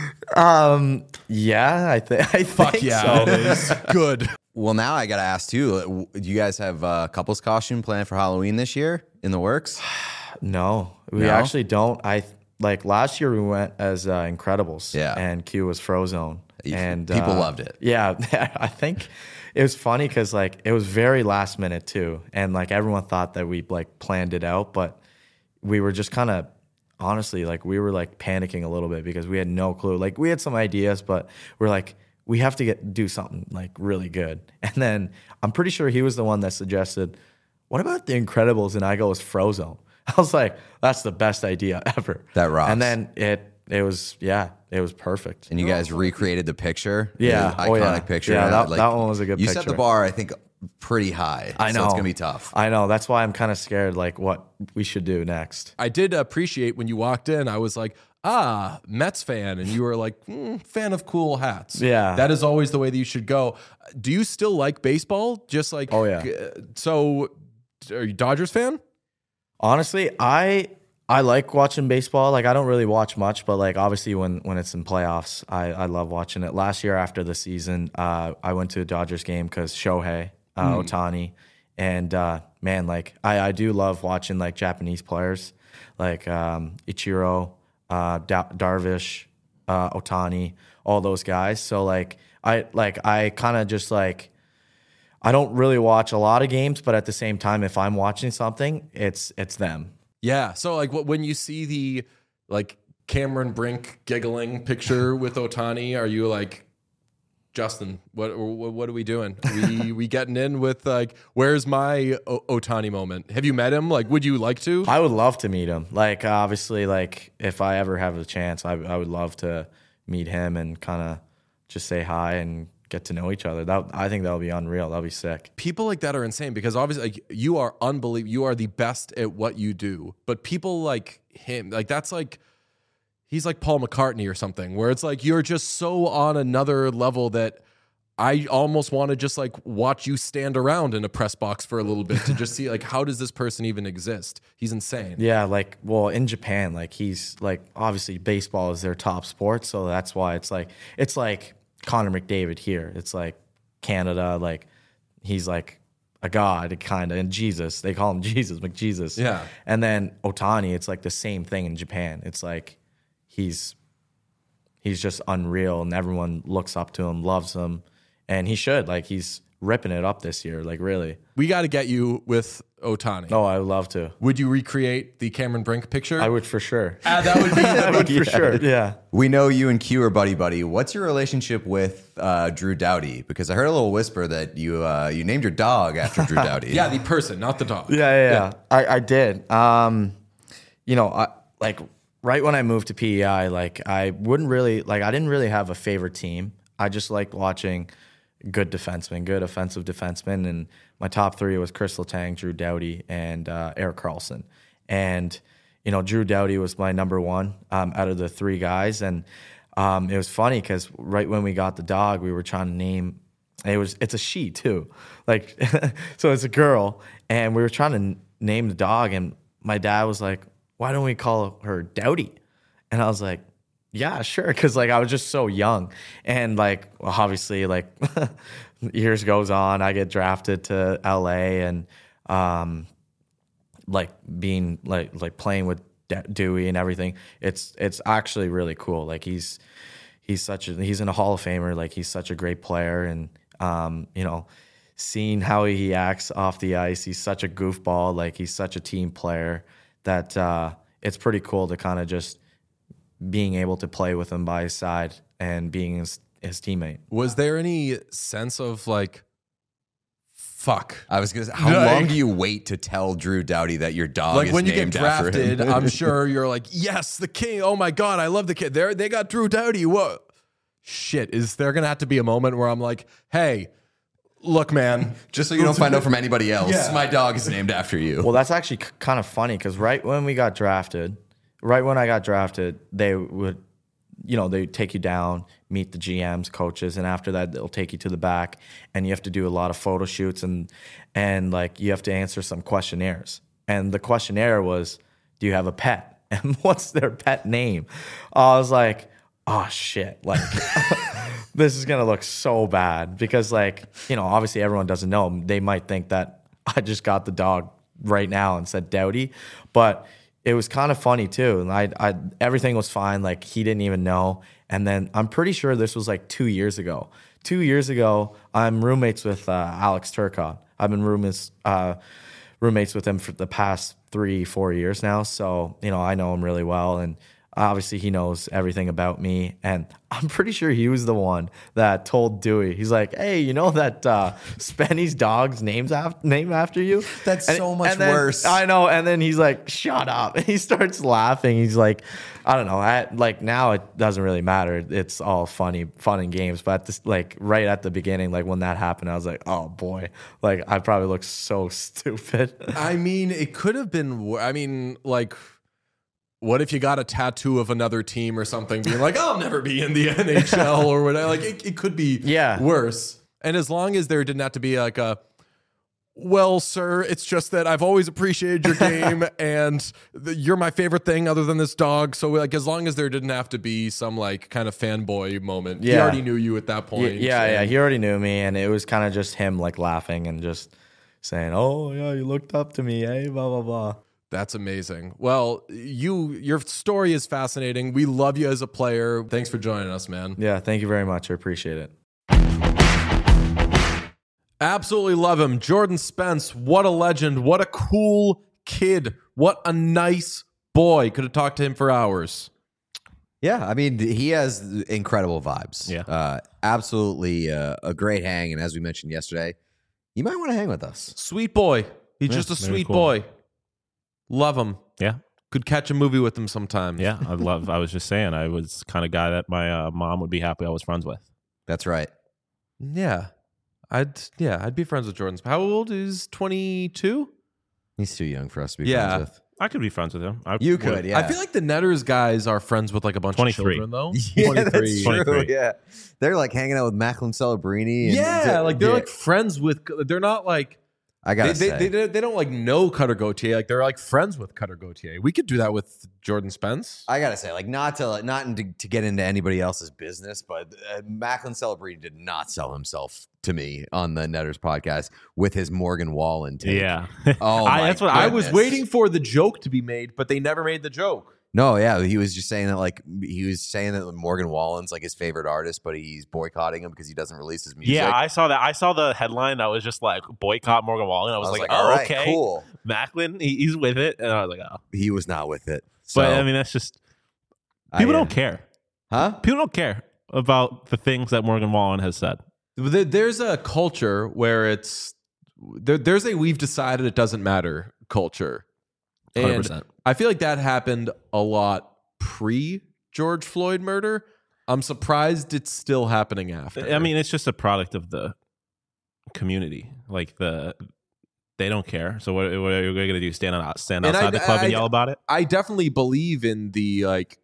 Yeah, I think Fuck yeah, so. It is. Good. Well, now I got to ask too, do you guys have a couples costume planned for Halloween this year in the works? No, we actually don't. Last year we went as Incredibles, and Q was Frozone, and people loved it. Yeah, I think it was funny because like it was very last minute too, and like everyone thought that we like planned it out, but we were just kind of honestly like we were like panicking a little bit because we had no clue. Like we had some ideas, but we're like, we have to do something like really good. And then I'm pretty sure he was the one that suggested, what about the Incredibles? And I go, it's Frozone. I was like, that's the best idea ever. That rocks. And then it was perfect. And you guys recreated the picture? Yeah. The iconic picture. Yeah, that one was a good picture. You set the bar, I think, pretty high. I know. So it's going to be tough. I know. That's why I'm kind of scared, like, what we should do next. I did appreciate when you walked in, I was like, Mets fan. And you were like, fan of cool hats. Yeah. That is always the way that you should go. Do you still like baseball? Just like, oh, yeah. So are you a Dodgers fan? Honestly, I like watching baseball. Like, I don't really watch much, but like obviously when it's in playoffs, I love watching it. Last year after the season, I went to a Dodgers game because Shohei Ohtani, and man, like I do love watching like Japanese players, like Ichiro, Darvish, Ohtani, all those guys. So like I kind of just like, I don't really watch a lot of games, but at the same time, if I'm watching something, it's them. Yeah. So like when you see the like Cameron Brink giggling picture with Ohtani, are you like, Justin, what are we doing? We getting in with like, where's my Ohtani moment? Have you met him? Like, would you like to? I would love to meet him. Like, obviously, like if I ever have a chance, I would love to meet him and kind of just say hi and get to know each other. I think that would be unreal. That would be sick. People like that are insane because obviously like, you are unbelievable. You are the best at what you do. But people like him, like that's like, he's like Paul McCartney or something where it's like, you're just so on another level that I almost want to just like watch you stand around in a press box for a little bit to just see like, how does this person even exist? He's insane. Yeah. Like, well, in Japan, like he's like, obviously baseball is their top sport. So that's why it's like Connor McDavid here. It's like Canada, like he's like a god, kind of, and Jesus. They call him Jesus, McJesus. Yeah. And then Ohtani, it's like the same thing in Japan. It's like he's just unreal, and everyone looks up to him, loves him, and he should. Like, he's ripping it up this year, like, really. We got to get you with Ohtani. Oh, I would love to. Would you recreate the Cameron Brink picture? I would for sure. That would be I would for sure. Yeah. We know you and Q are buddy. What's your relationship with Drew Doughty? Because I heard a little whisper that you named your dog after Drew Doughty. Yeah, the person, not the dog. Yeah. I did. Like right when I moved to PEI, like I didn't really have a favorite team. I just liked watching good defensemen, good offensive defensemen, and my top three was Chris Letang, Drew Doughty, and Erik Karlsson. And Drew Doughty was my number one out of the three guys, and it was funny because right when we got the dog, we were trying to name. It's a she too, like so it's a girl, and we were trying to name the dog, and my dad was like, "Why don't we call her Doughty?" And I was like, "Yeah, sure," because like I was just so young, and like obviously like years goes on, I get drafted to LA, and like being like playing with Dewey and everything. It's actually really cool. Like he's in a Hall of Famer. Like he's such a great player, and seeing how he acts off the ice, he's such a goofball. Like he's such a team player that it's pretty cool to kind of just being able to play with him by his side and being his teammate. Was there any sense of like, fuck? I was gonna say, how long do you wait to tell Drew Doughty that your dog Like is when you get named after him? drafted, I'm sure you're like, yes, the king. Oh my God, I love the kid. They got Drew Doughty. What? Shit, is there gonna have to be a moment where I'm like, hey, look, man, Just so you don't find out from anybody else, Yeah. my dog is named after you. Well, that's actually kind of funny because right when I got drafted, they would, they take you down, meet the GMs, coaches, and after that, they'll take you to the back, and you have to do a lot of photo shoots and like you have to answer some questionnaires. And the questionnaire was, do you have a pet? And what's their pet name? I was like, oh shit, like this is gonna look so bad because like, obviously everyone doesn't know. They might think that I just got the dog right now and said Doughty, but it was kind of funny too. And I everything was fine. Like he didn't even know. And then I'm pretty sure this was like 2 years ago. 2 years ago, I'm roommates with Alex Turcotte. I've been roommates with him for the past 3-4 years now. So, I know him really well. And obviously he knows everything about me. And I'm pretty sure he was the one that told Dewey, he's like, hey, you know that Spenny's dog's named after you? That's so much worse. I know. And then he's like, shut up. And he starts laughing. He's like, I don't know. Like now it doesn't really matter. It's all fun and games. But like right at the beginning, like when that happened, I was like, oh boy, like I probably look so stupid. I mean, it could have been. I mean, like, what if you got a tattoo of another team or something, being like, I'll never be in the NHL or whatever? Like, it could be worse. And as long as there didn't have to be like a, well, sir, it's just that I've always appreciated your game and you're my favorite thing other than this dog. So like, as long as there didn't have to be some like kind of fanboy moment, he already knew you at that point. Yeah, he already knew me. And it was kind of just him like laughing and just saying, oh yeah, you looked up to me, eh? Blah, blah, blah. That's amazing. Well, your story is fascinating. We love you as a player. Thanks for joining us, man. Yeah, thank you very much. I appreciate it. Absolutely love him. Jordan Spence, what a legend. What a cool kid. What a nice boy. Could have talked to him for hours. Yeah, I mean, he has incredible vibes. Yeah. Absolutely a great hang. And as we mentioned yesterday, you might want to hang with us. Sweet boy. He's just a very sweet cool. boy. Love him. Yeah. Could catch a movie with him sometime. Yeah. I was just saying, I was kind of guy that my mom would be happy I was friends with. That's right. Yeah. I'd be friends with Jordan. How old is 22? He's too young for us to be Yeah. friends with. I could be friends with him. You could, yeah. I feel like the Netters guys are friends with like a bunch 23. of children, though. Yeah, that's 23. true. 23. Yeah, they're like hanging out with Macklin Celebrini. And Yeah, like they're like friends with. They're not like. I gotta say. They don't like know Cutter Gauthier. Like they're like friends with Cutter Gauthier. We could do that with Jordan Spence. I gotta say, like, not to get into anybody else's business, but Macklin Celebrini did not sell himself to me on the Netters podcast with his Morgan Wallen take. Yeah. Oh, that's what I was waiting for the joke to be made, but they never made the joke. No, yeah, he was just saying that, like, Morgan Wallen's like his favorite artist, but he's boycotting him because he doesn't release his music. Yeah, I saw that. I saw the headline that was just like boycott Morgan Wallen. I was like, all right, okay, cool. Macklin, he's with it, and I was like, oh. He was not with it. So, But I mean, that's just people don't care. Huh? People don't care about the things that Morgan Wallen has said. There's a culture where it's there's a we've decided it doesn't matter culture. And 100%. I feel like that happened a lot pre George Floyd murder. I'm surprised it's still happening after. I mean, it's just a product of the community. Like they don't care. So what are you going to do? Stand outside the club and yell about it? I definitely believe in the like.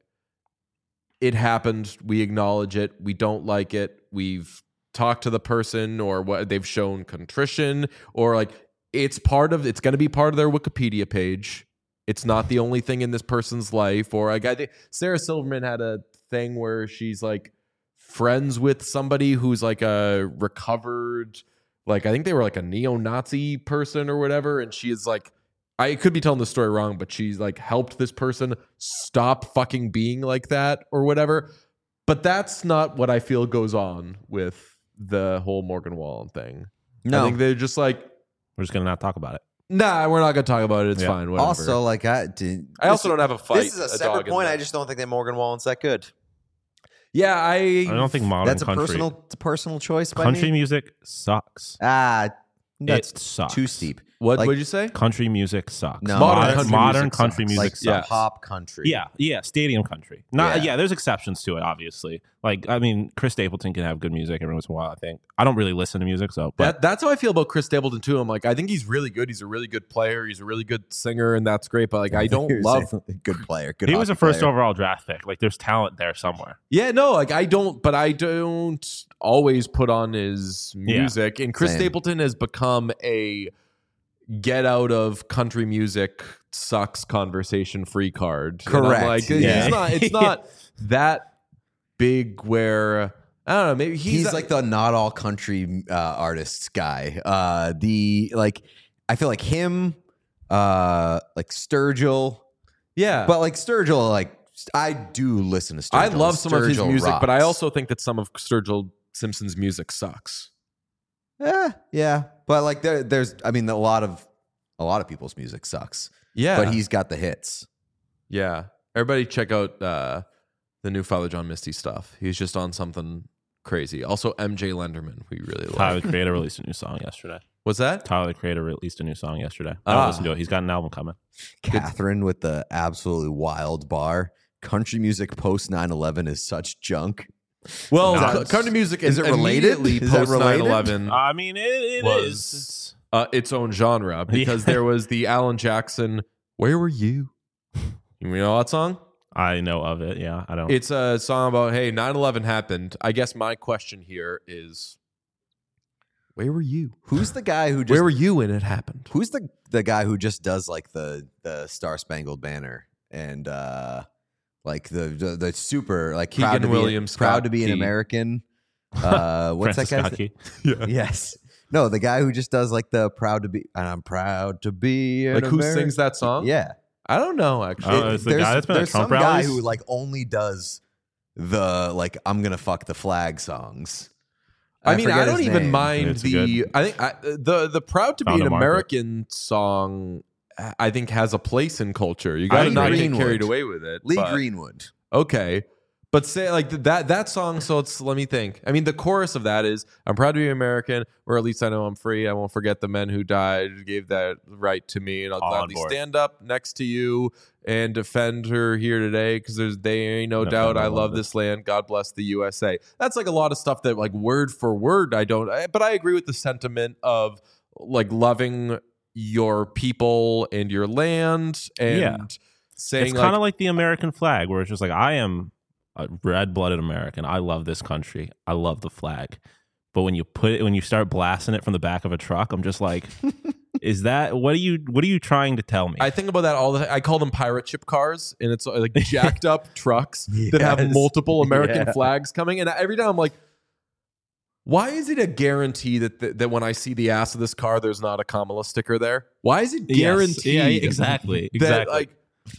It happened. We acknowledge it. We don't like it. We've talked to the person, or what they've shown contrition, or like it's going to be part of their Wikipedia page. It's not the only thing in this person's life. Or like I think Sarah Silverman had a thing where she's like friends with somebody who's like a recovered, like I think they were like a neo-Nazi person or whatever, and she is like, I could be telling the story wrong, but she's like helped this person stop fucking being like that or whatever. But that's not what I feel goes on with the whole Morgan Wallen thing. No. I think they're just like, We're just going to not talk about it. nah, we're not going to talk about it. It's fine. Whatever. Also, like, I also don't have a fight. This is a separate point. I just don't think that Morgan Wallen's that good. Yeah, I don't think modern That's country. a personal choice by Country me. music sucks. That's It sucks. too steep. What Like- would you say? Country music sucks. No, modern country sucks. music Like sucks. pop country. Yeah, stadium country. Not Yeah. there's exceptions to it, obviously. Like I mean, Chris Stapleton can have good music every once in a while. I think I don't really listen to music, so but That's how I feel about Chris Stapleton too. I'm like, I think he's really good. He's a really good player. He's a really good singer, and that's great. But like, I don't You're love. saying good player. Good he was a hockey first player. overall draft pick. Like there's talent there somewhere. Yeah, no, like I don't. But I don't always put on his music. And Chris Same. Stapleton has become a get out of country music sucks conversation free card. And I'm Correct. like, Yeah. it's not that big where I don't know. Maybe He's like the not all country artists guy. I feel like him, like Sturgill, yeah. but like Sturgill, like I do listen to Sturgill. I love some of his Sturgill music, but I rocks. also think that some of Sturgill Simpson's music sucks. Yeah, but like there's, I mean, a lot of people's music sucks. Yeah, But he's got the hits. yeah. Everybody check out the new Father John Misty stuff. He's just on something crazy. Also, MJ Lenderman, we really Tyler like. the Creator released a new song yesterday. What's that? Tyler the Creator released a new song yesterday. I don't listen to it. He's got an album coming. Catherine with the absolutely wild bar. Country music post 9/11 is such junk. Well, No. country music Is it related? immediately Is that post related? 9/11 I mean, it Was- is. its own genre because there was the Alan Jackson "Where Were You?" You know that song? I know of it. Yeah, I don't. It's a song about, hey, 9/11 happened. I guess my question here is, where were you? Who's the guy who just Where were you when it happened? Who's the guy who just does like the Star Spangled Banner and like the super like Keegan proud to Williams, be proud Scott to be an Key. American. What's Francis that guy's Scott Key. Yes. No, the guy who just does like the proud to be and I'm proud to be an Like who American. sings that song? Yeah. I don't know actually. Oh, it's the guy that's been at there's Trump some guy rallies? who like only does the like I'm gonna fuck the flag songs. I mean, I forget don't his even name. mind It's the. good. I think the "Proud to Be Found an a market. American" song. I think has a place in culture. You got to Lee not get Greenwood. carried away with it. Lee but- Greenwood. Okay. But say like that song, so it's let me think. I mean, the chorus of that is I'm proud to be American, or at least I know I'm free. I won't forget the men who died, gave that right to me, and I'll All on gladly board. stand up next to you and defend her here today because there ain't no Defend doubt I all of love it. this land. God bless the USA. That's like a lot of stuff that like word for word I don't, but I agree with the sentiment of like loving your people and your land and Yeah. saying It's like, kind of like the American flag, where it's just like I am a red-blooded American. I love this country. I love the flag. But when you start blasting it from the back of a truck, I'm just like, Is that what are you trying to tell me? I think about that all the time. I call them pirate ship cars, and it's like jacked up trucks that have Yes. multiple American Yeah. flags coming. And every time I'm like, why is it a guarantee that when I see the ass of this car, there's not a Kamala sticker there? Why is it guaranteed? Yes. Yeah, exactly. That, like,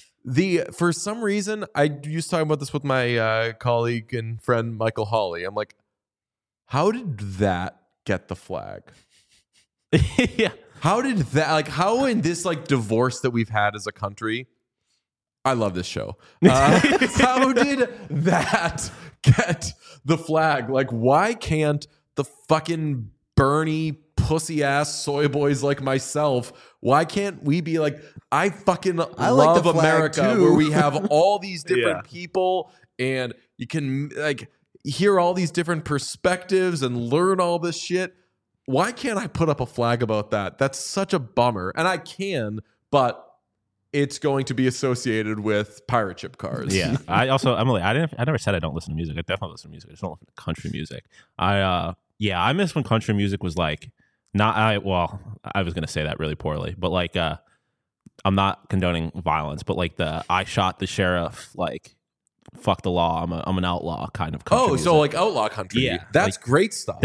for some reason, I used to talk about this with my colleague and friend Michael Hawley. I'm like, how did that get the flag? yeah. How did that, like, how in this like divorce that we've had as a country? I love this show. How did that get the flag? Like, why can't the fucking Bernie pussy ass soy boys like myself? Why can't we be like, I fucking I like love the flag America, too. where we have all these different Yeah. people and you can like hear all these different perspectives and learn all this shit. Why can't I put up a flag about that? That's such a bummer. And I can, but it's going to be associated with pirate ship cars. Yeah. I also, Emily, I never said I don't listen to music. I definitely listen to music. I just don't listen to country music. I miss when country music was like, I was going to say that really poorly, but like, I'm not condoning violence, but like I shot the sheriff, like, fuck the law, I'm an outlaw kind of country music. So like outlaw country. Yeah, That's like, great stuff.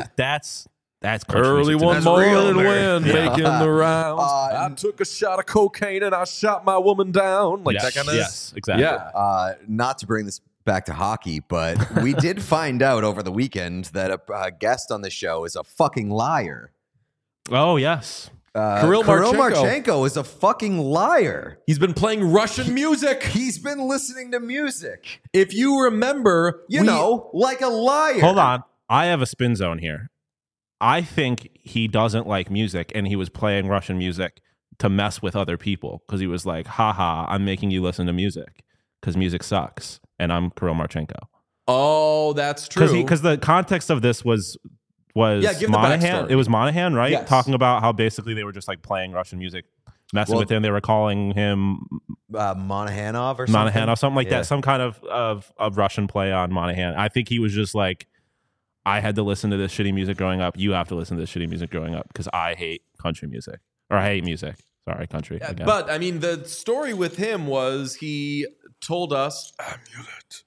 That's country Early music to me. one That's real morning American. when making the rounds, Uh, I took a shot of cocaine and I shot my woman down. Like that kind of Yes, exactly. Yeah. Not to bring this back to hockey, but we did find out over the weekend that a guest on the show is a fucking liar. Oh, yes. Kirill Marchenko is a fucking liar. He's been playing Russian music. He's been listening to music, If you remember, like a liar. Hold on. I have a spin zone here. I think he doesn't like music and he was playing Russian music to mess with other people because he was like, haha, I'm making you listen to music because music sucks. And I'm Kirill Marchenko. Oh, that's true. Because the context of this was give the Monahan. backstory. It was Monahan, right? Yes. Talking about how basically they were just like playing Russian music, messing with him. They were calling him Monahanov or something. Monahan or something like Yeah. that. Some kind of Russian play on Monahan. I think he was just like, I had to listen to this shitty music growing up. You have to listen to this shitty music growing up because I hate country music. Or I hate music. Sorry, country. Yeah, again. but I mean, the story with him was he told us amulet.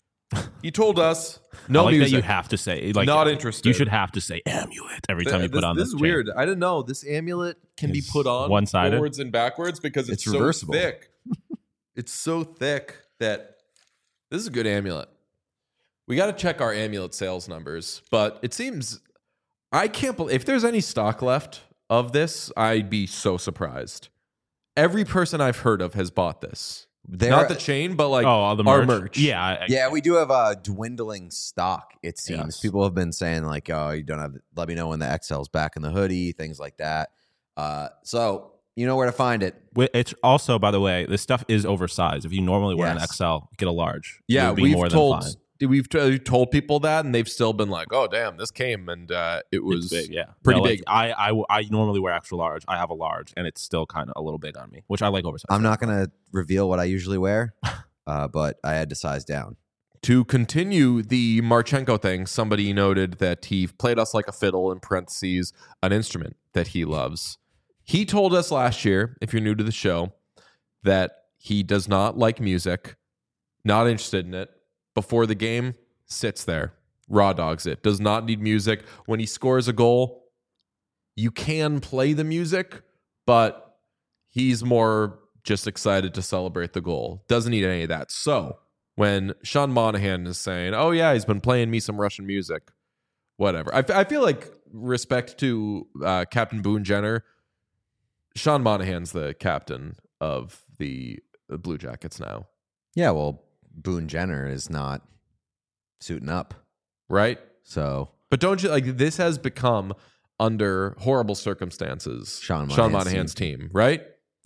He told us no I like music. that you have to say like Not interested. You should have to say amulet every time you put on this this. is chain. weird. I didn't know this amulet can be It's put on one-sided? forwards and backwards because it's so reversible. thick. It's so thick that this is a good amulet. We got to check our amulet sales numbers, but it seems I can't believe if there's any stock left of this, I'd be so surprised. Every person I've heard of has bought this. Not the chain, but like the our merch. merch. Yeah, Yeah, we do have a dwindling stock, it seems. Yes. People have been saying, like, oh, you don't have, let me know when the XL's back in the hoodie, things like that. So you know where to find it. It's also, by the way, this stuff is oversized. If you normally wear an Yes. XL, get a large. It Yeah, would be we've more told than fine. we've told people that, and they've still been like, "Oh, damn, this came and it was It's big, yeah, pretty No, like, big." I normally wear extra large. I have a large, and it's still kind of a little big on me, which I like oversized. I'm not going to reveal what I usually wear, but I had to size down. To continue the Marchenko thing, somebody noted that he played us like a fiddle, in parentheses, an instrument that he loves. He told us last year, if you're new to the show, that he does not like music, not interested in it. Before the game, sits there, raw dogs it, does not need music. When he scores a goal, you can play the music, but he's more just excited to celebrate the goal. Doesn't need any of that. So when Sean Monahan is saying, oh yeah, he's been playing me some Russian music, whatever. I feel like, respect to Captain Boone Jenner, Sean Monahan's the captain of the Blue Jackets now, Yeah, well, Boone Jenner is not suiting up. right? So But don't you like this has become under horrible circumstances Sean Monahan's team, right?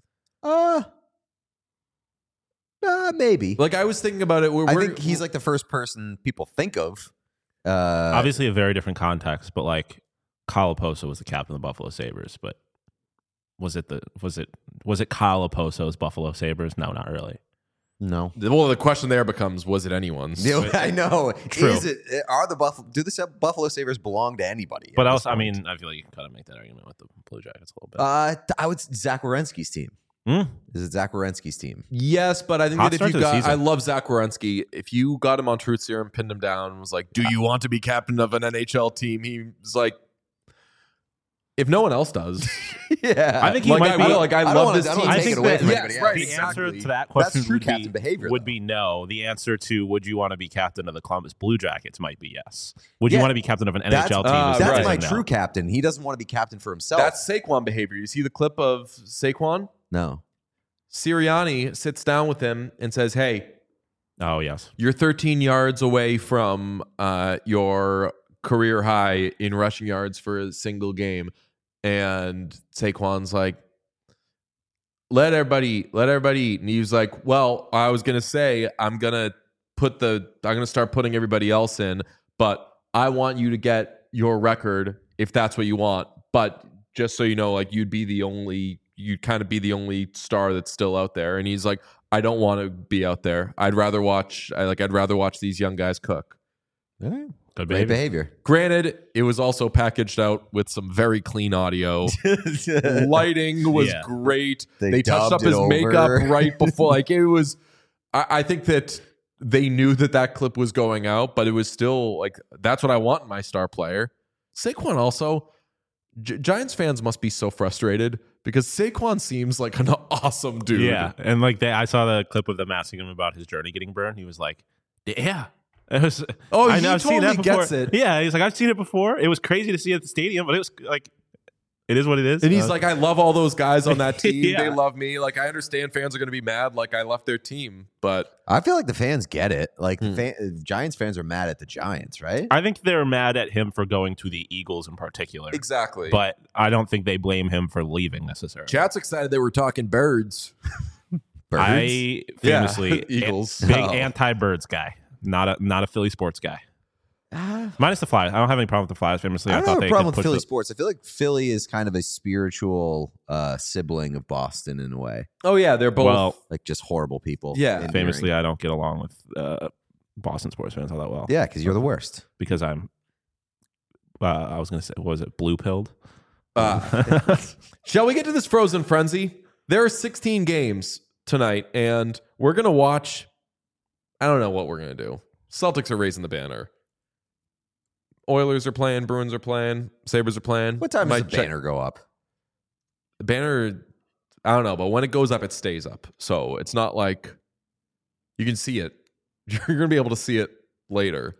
maybe. Like I was thinking about it. I think he's like the first person people think of. Obviously, a very different context, but like Kyle Oposo was the captain of the Buffalo Sabres, but was it Kyle Oposo's Buffalo Sabres? No, not really. No. Well, the question there becomes: was it anyone's? I know. True. Is it? Are the Buffalo? Do the Buffalo Sabres belong to anybody? But at also, this I point? mean, I feel like you can kind of make that argument with the Blue Jackets a little bit. I would Zach Werenski's team. Is it Zach Werenski's team? Yes, but I think Hot that if start you to the got, season. I love Zach Werenski. If you got him on Truth Serum, pinned him down, and was like, "Do you want to be captain of an NHL team?" He was like, "If no one else does, Yeah, I think he like, might I be. will. Like, I love this I team. don't I take think it away that- from yes, anybody right, else. The exactly. answer to that That's question true would captain be, behavior, would though. be no. The answer to would you want to be captain of the Columbus Blue Jackets might be yes. Would you Yeah, want to be captain of an That's, NHL team? Is the that's answer my no. true captain. He doesn't want to be captain for himself. That's Saquon behavior. You see the clip of Saquon? no. Sirianni sits down with him and says, "Hey, Oh yes. you're 13 yards away from your career high in rushing yards for a single game," and Saquon's like, let everybody eat. And he was like, "Well, I was gonna say I'm gonna start putting everybody else in, but I want you to get your record if that's what you want. But just so you know, like you'd kind of be the only star that's still out there." And he's like, "I don't want to be out there. I'd rather watch these young guys cook." Good Great behavior. behavior. Granted, it was also packaged out with some very clean audio. Lighting was Yeah. great. They They touched up dubbed it his makeup over. right before. Like it was, I think that they knew that clip was going out, but it was still like, that's what I want in my star player. Saquon also, Giants fans must be so frustrated because Saquon seems like an awesome dude. Yeah, and like I saw the clip of them asking him about his jersey getting burned. He was like, "Yeah." It was, Oh, I he know, I've seen that totally before. gets it. Yeah, he's like, I've seen it before. It was crazy to see it at the stadium, but it was like, it is what it is. And he's like, "I love all those guys on that team. Yeah. They love me. Like, I understand fans are going to be mad. Like, I left their team, but I feel like the fans get it. Like Giants fans are mad at the Giants, right? I think they're mad at him for going to the Eagles in particular. exactly." But I don't think they blame him for leaving necessarily. Chat's excited they were talking birds. Birds? I famously Eagles. big Oh. anti-birds guy, not a Philly sports guy. Minus the Flyers. I don't have any problem with the Flyers. Famously, I I don't thought have they a problem could with push Philly the- sports. I feel like Philly is kind of a spiritual sibling of Boston in a way. Oh yeah, they're both. Well, Like just horrible people. Yeah. endearing. famously, I don't get along with Boston sports fans all that well. Yeah, because you're the worst. Because I'm. I was going to say, what was it? Blue pilled. Shall we get to this Frozen Frenzy? There are 16 games tonight, and we're gonna watch. I don't know what we're gonna do. Celtics are raising the banner. Oilers are playing. Bruins are playing. Sabres are playing. What time does Might the banner go up? The banner, I don't know, but when it goes up, it stays up. So it's not like you can see it. You're going to be able to see it later.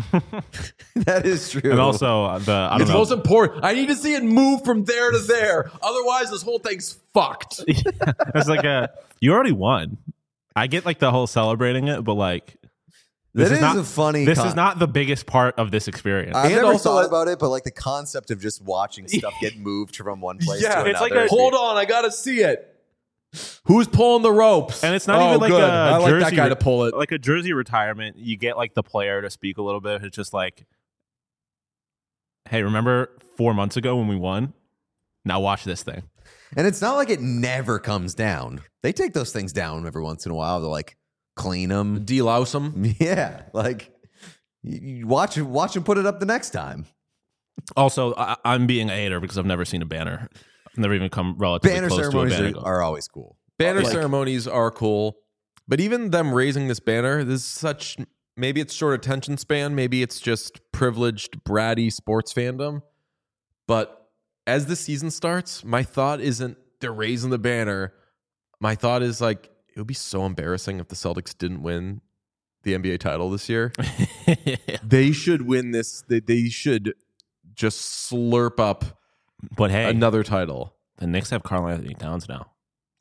That is true. And also, I don't It's know. most important. I need to see it move from there to there. Otherwise, this whole thing's fucked. It's like you already won. I get like the whole celebrating it, but like that is not a funny. This is not the biggest part of this experience. I've And never also, thought like- about it, but like the concept of just watching stuff get moved from one place Yeah, to it's like another. Hold on, I got to see it. Who's pulling the ropes? And it's not even like good. a I like that jersey guy to pull it. like a jersey retirement. You get like the player to speak a little bit. It's just like, hey, remember 4 months ago when we won? Now watch this thing. And it's not like it never comes down. They take those things down every once in a while. They're like clean them. Delouse him. Yeah, like you watch them put it up the next time. Also, I'm being a hater because I've never seen a banner. I've never even come relatively Banner close to a ceremonies banner. are always cool. Banner Like- ceremonies are cool, but even them raising this banner, this is such. Maybe it's short attention span. Maybe it's just privileged, bratty sports fandom. But as the season starts, my thought isn't they're raising the banner. My thought is like it would be so embarrassing if the Celtics didn't win the NBA title this year. They should win this. They should just slurp up But hey, another title. the Knicks have Karl Anthony Towns now.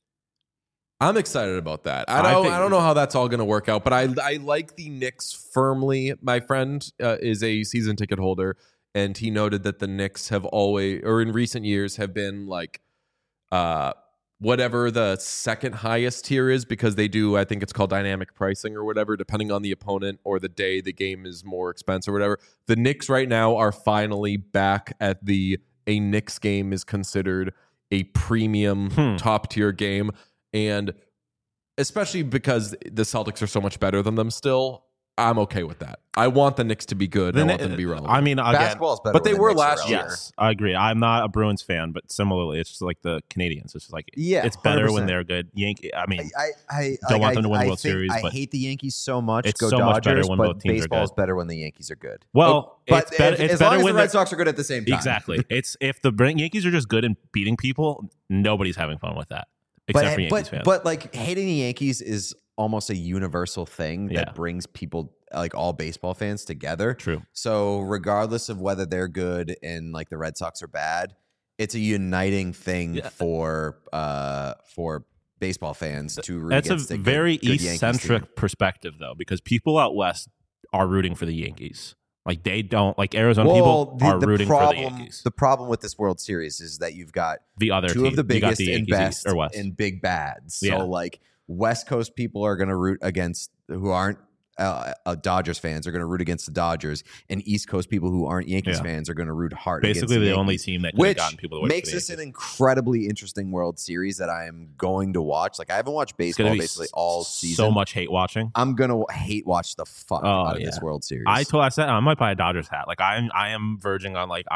I'm excited about that. I I think- don't know how that's all going to work out, but I like the Knicks firmly. My friend is a season ticket holder, and he noted that the Knicks have always, or in recent years, have been like whatever the second highest tier is, because they do, I think it's called dynamic pricing or whatever, depending on the opponent or the day the game is more expensive or whatever. The Knicks right now are finally back at a Knicks game is considered a premium top tier game. And especially because the Celtics are so much better than them still. I'm okay with that. I want the Knicks to be good. I want them to be relevant. I mean, again, Basketball is better, but they when the were Knicks are last year. relevant. yes, I agree. I'm not a Bruins fan, but similarly, it's just like the Canadians. It's just like it's better when 100%. they're good. Yankee. I mean, I don't want them to win the World think- Series, I but hate the Yankees so much. it's Go so Dodgers, much better when but both teams are baseball is good. better when the Yankees are good. well, But it's better. as It's long better as when the Red Sox are good at the same time. exactly. It's if the Yankees are just good and beating people, nobody's having fun with that except for Yankees fans. But like hating the Yankees is almost a universal thing Yeah. that brings people, like all baseball fans, together. True. So regardless of whether they're good and like the Red Sox are bad, it's a uniting thing for baseball fans to root That's against a good very Yankees team. eccentric perspective, though, because people out west are rooting for the Yankees. Like they don't like Arizona people are rooting for the Yankees. The problem with this World Series is that you've got The other two team. of the You got biggest the and Yankees best or West. and big bads. So Yeah. like West Coast people are going to root against who aren't Dodgers fans are going to root against the Dodgers, and East Coast people who aren't Yankees Yeah. fans are going to root hard. Basically, against the only Yankees, team that could have which gotten people to wait makes for the this an Yankees. incredibly interesting World Series that I am going to watch. Like I haven't watched It's gonna baseball be basically all season. So much hate watching. I'm gonna hate watch the fuck out of this World Series. I said I might buy a Dodgers hat. Like I am verging on like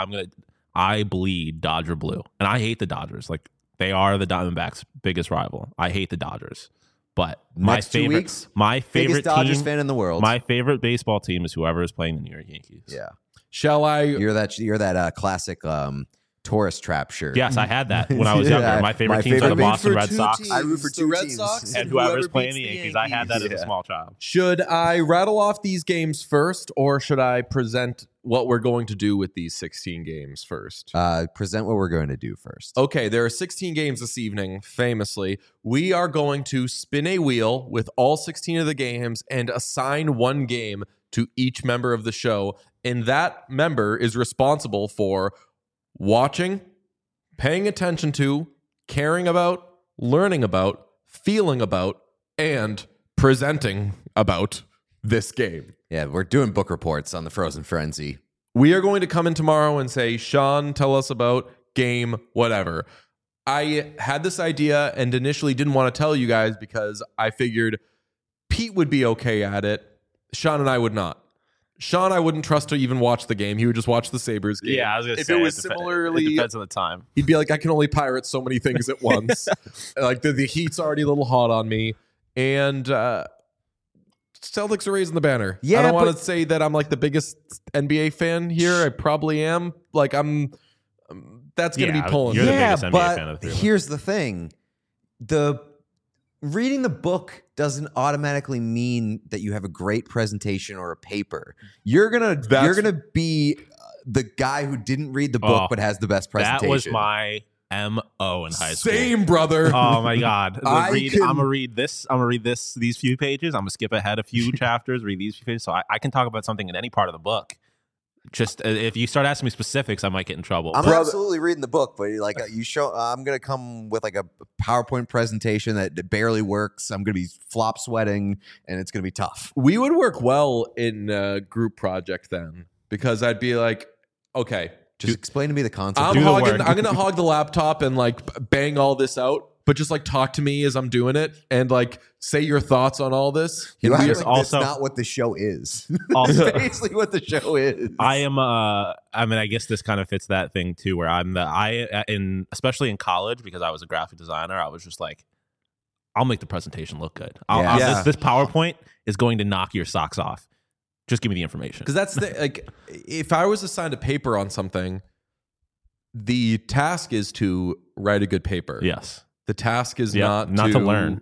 I bleed Dodger blue, and I hate the Dodgers. Like they are the Diamondbacks' biggest rival. I hate the Dodgers, but Next 2 weeks, my favorite biggest Dodgers team, fan in the world. my favorite baseball team is whoever is playing the New York Yankees. Yeah, Shall I? you're that classic tourist trap shirt. Yes, I had that when I was younger. My favorite teams are the Boston Red Sox I root for the two Red teams. Sox and whoever whoever's playing beats the the Yankees. I had that as Yeah. a small child. Should I rattle off these games first, or should I present what we're going to do with these 16 games first? Present what we're going to do first. Okay, there are 16 games this evening, famously. We are going to spin a wheel with all 16 of the games and assign one game to each member of the show. And that member is responsible for watching, paying attention to, caring about, learning about, feeling about, and presenting about this game. Yeah, we're doing book reports on the Frozen Frenzy. We are going to come in tomorrow and say, Sean, tell us about game, whatever. I had this idea and initially didn't want to tell you guys because I figured Pete would be okay at it. Sean and I would not. Sean, I wouldn't trust to even watch the game. He would just watch the Sabres game. Yeah, I was going to if say. it was similarly, it depends on the time. he'd be like, I can only pirate so many things at once. Like the heat's already a little hot on me. And Celtics are raising the banner. Yeah, I don't want but- to say that I'm like the biggest NBA fan here. I probably am. Like that's going to Yeah, be pulling. you're me. the biggest NBA but fan of the three of us. here's the thing: reading the book doesn't automatically mean that you have a great presentation or a paper. You're gonna be the guy who didn't read the book Oh, but has the best presentation. That was my MO in high school. Same, brother. Oh my god! I I'm can- gonna read this. I'm gonna read these few pages. I'm gonna skip ahead a few chapters. Read these few pages, so I can talk about something in any part of the book. Just if you start asking me specifics, I might get in trouble. I'm absolutely reading the book, but like I'm gonna come with like a PowerPoint presentation that barely works. I'm gonna be flop sweating, and it's gonna be tough. We would work well in a group project then because I'd be like, okay, Just explain to me the concept. I'm Do the work. going to hog the laptop and like bang all this out, but just like talk to me as I'm doing it and like say your thoughts on all this. You And act we- like also- that's not what the show is. Also- It's basically what the show is. I am. I mean, I guess this kind of fits that thing too, where especially in college because I was a graphic designer. I was just like, I'll make the presentation look good. Yeah. This PowerPoint is going to knock your socks off. Just give me the information. Because that's the like, if I was assigned a paper on something, the task is to write a good paper. Yes. The task is Yeah, not to learn.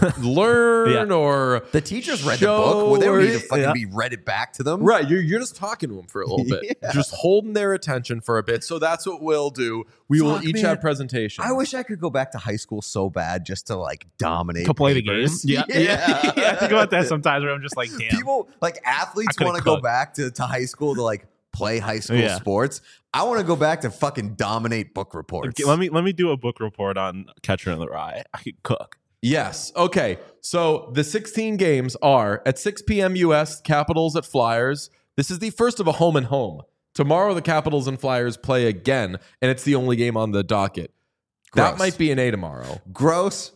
learn or The teachers read the show book. Well, they don't need to or- fucking yeah. be read it back to them. right. You're just talking to them for a little bit, Yeah. just holding their attention for a bit. So that's what we'll do. We will Fuck, each man. have presentations. I wish I could go back to high school so bad just to like dominate To play the game. papers. Yeah. Yeah. Yeah. I think about that sometimes where I'm just like, damn. People like athletes I could've want to go cooked. back to high school to like play high school Yeah. sports. I want to go back to fucking dominate book reports. Let me do a book report on Catcher in the Rye. I could cook. Yes. Okay. So the 16 games are at 6 p.m. U.S. Capitals at Flyers. This is the first of a home and home. Tomorrow the Capitals and Flyers play again, and it's the only game on the docket. That Gross. might be an A tomorrow. Gross.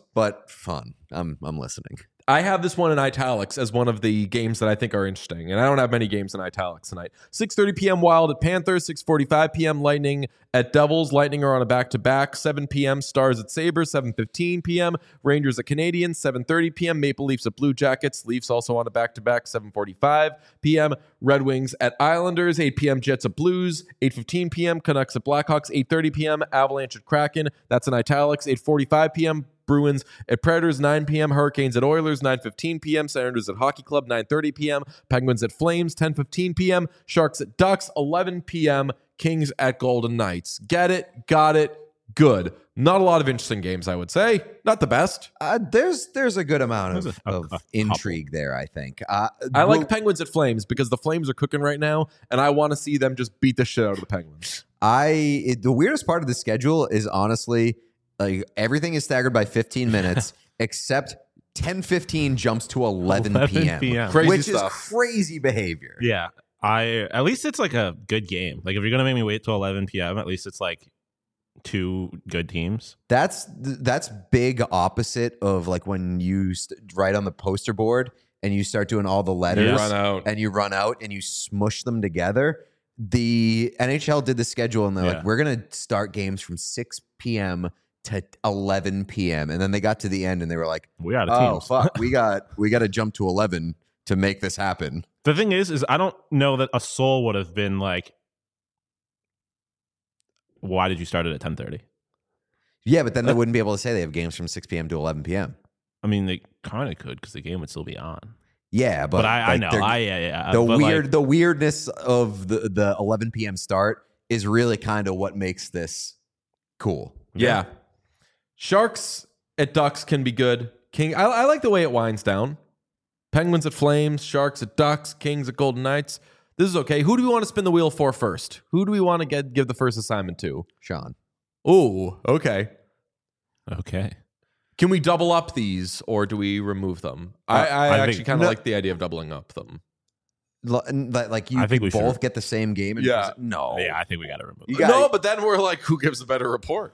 but fun. I'm listening. I have this one in italics as one of the games that I think are interesting, and I don't have many games in italics tonight. 6:30 p.m. Wild at Panthers, 6:45 p.m. Lightning at Devils. Lightning are on a back-to-back. 7 p.m. Stars at Sabres, 7:15 p.m. Rangers at Canadiens, 7:30 p.m. Maple Leafs at Blue Jackets. Leafs also on a back-to-back, 7:45 p.m. Red Wings at Islanders, 8 p.m. Jets at Blues, 8:15 p.m. Canucks at Blackhawks, 8:30 p.m. Avalanche at Kraken. That's in italics. 8:45 p.m. Bruins at Predators, 9 p.m. Hurricanes at Oilers, 9:15 p.m. Senators at Hockey Club, 9:30 p.m. Penguins at Flames, 10:15 p.m. Sharks at Ducks, 11 p.m. Kings at Golden Knights. Get it, got it, good. Not a lot of interesting games, I would say. Not the best. There's a good amount of intrigue there, I think. I like Penguins at Flames because the Flames are cooking right now, and I want to see them just beat the shit out of the Penguins. The weirdest part of the schedule is honestly, like, everything is staggered by 15 minutes, except 10:15 jumps to 11 p.m. Crazy which stuff. is crazy behavior. Yeah. At least it's like a good game. Like if you're gonna make me wait till 11 p.m., at least it's like two good teams. That's big opposite of like when you write on the poster board and you start doing all the letters you run out and you smush them together. The NHL did the schedule and they're like, we're gonna start games from 6 p.m. to 11 p.m. And then they got to the end and they were like, we got oh fuck, we got to jump to 11 to make this happen. The thing is I don't know that a soul would have been like, why did you start it at 10:30? Yeah, but then they wouldn't be able to say they have games from 6 p.m. to 11 p.m. I mean, they kind of could because the game would still be on. Yeah, but I know. The weirdness of the 11 p.m. start is really kind of what makes this cool. Yeah. Sharks at Ducks can be good. I like the way it winds down. Penguins at Flames, Sharks at Ducks, Kings at Golden Knights. This is okay. Who do we want to spin the wheel for first? Who do we want to give the first assignment to? Sean. Oh, okay. Okay. Can we double up these or do we remove them? I actually kind of like the idea of doubling up them. Like you I think could we both should. get the same game. And no. Yeah, I think we got to remove You it. No, but then we're like, who gives a better report?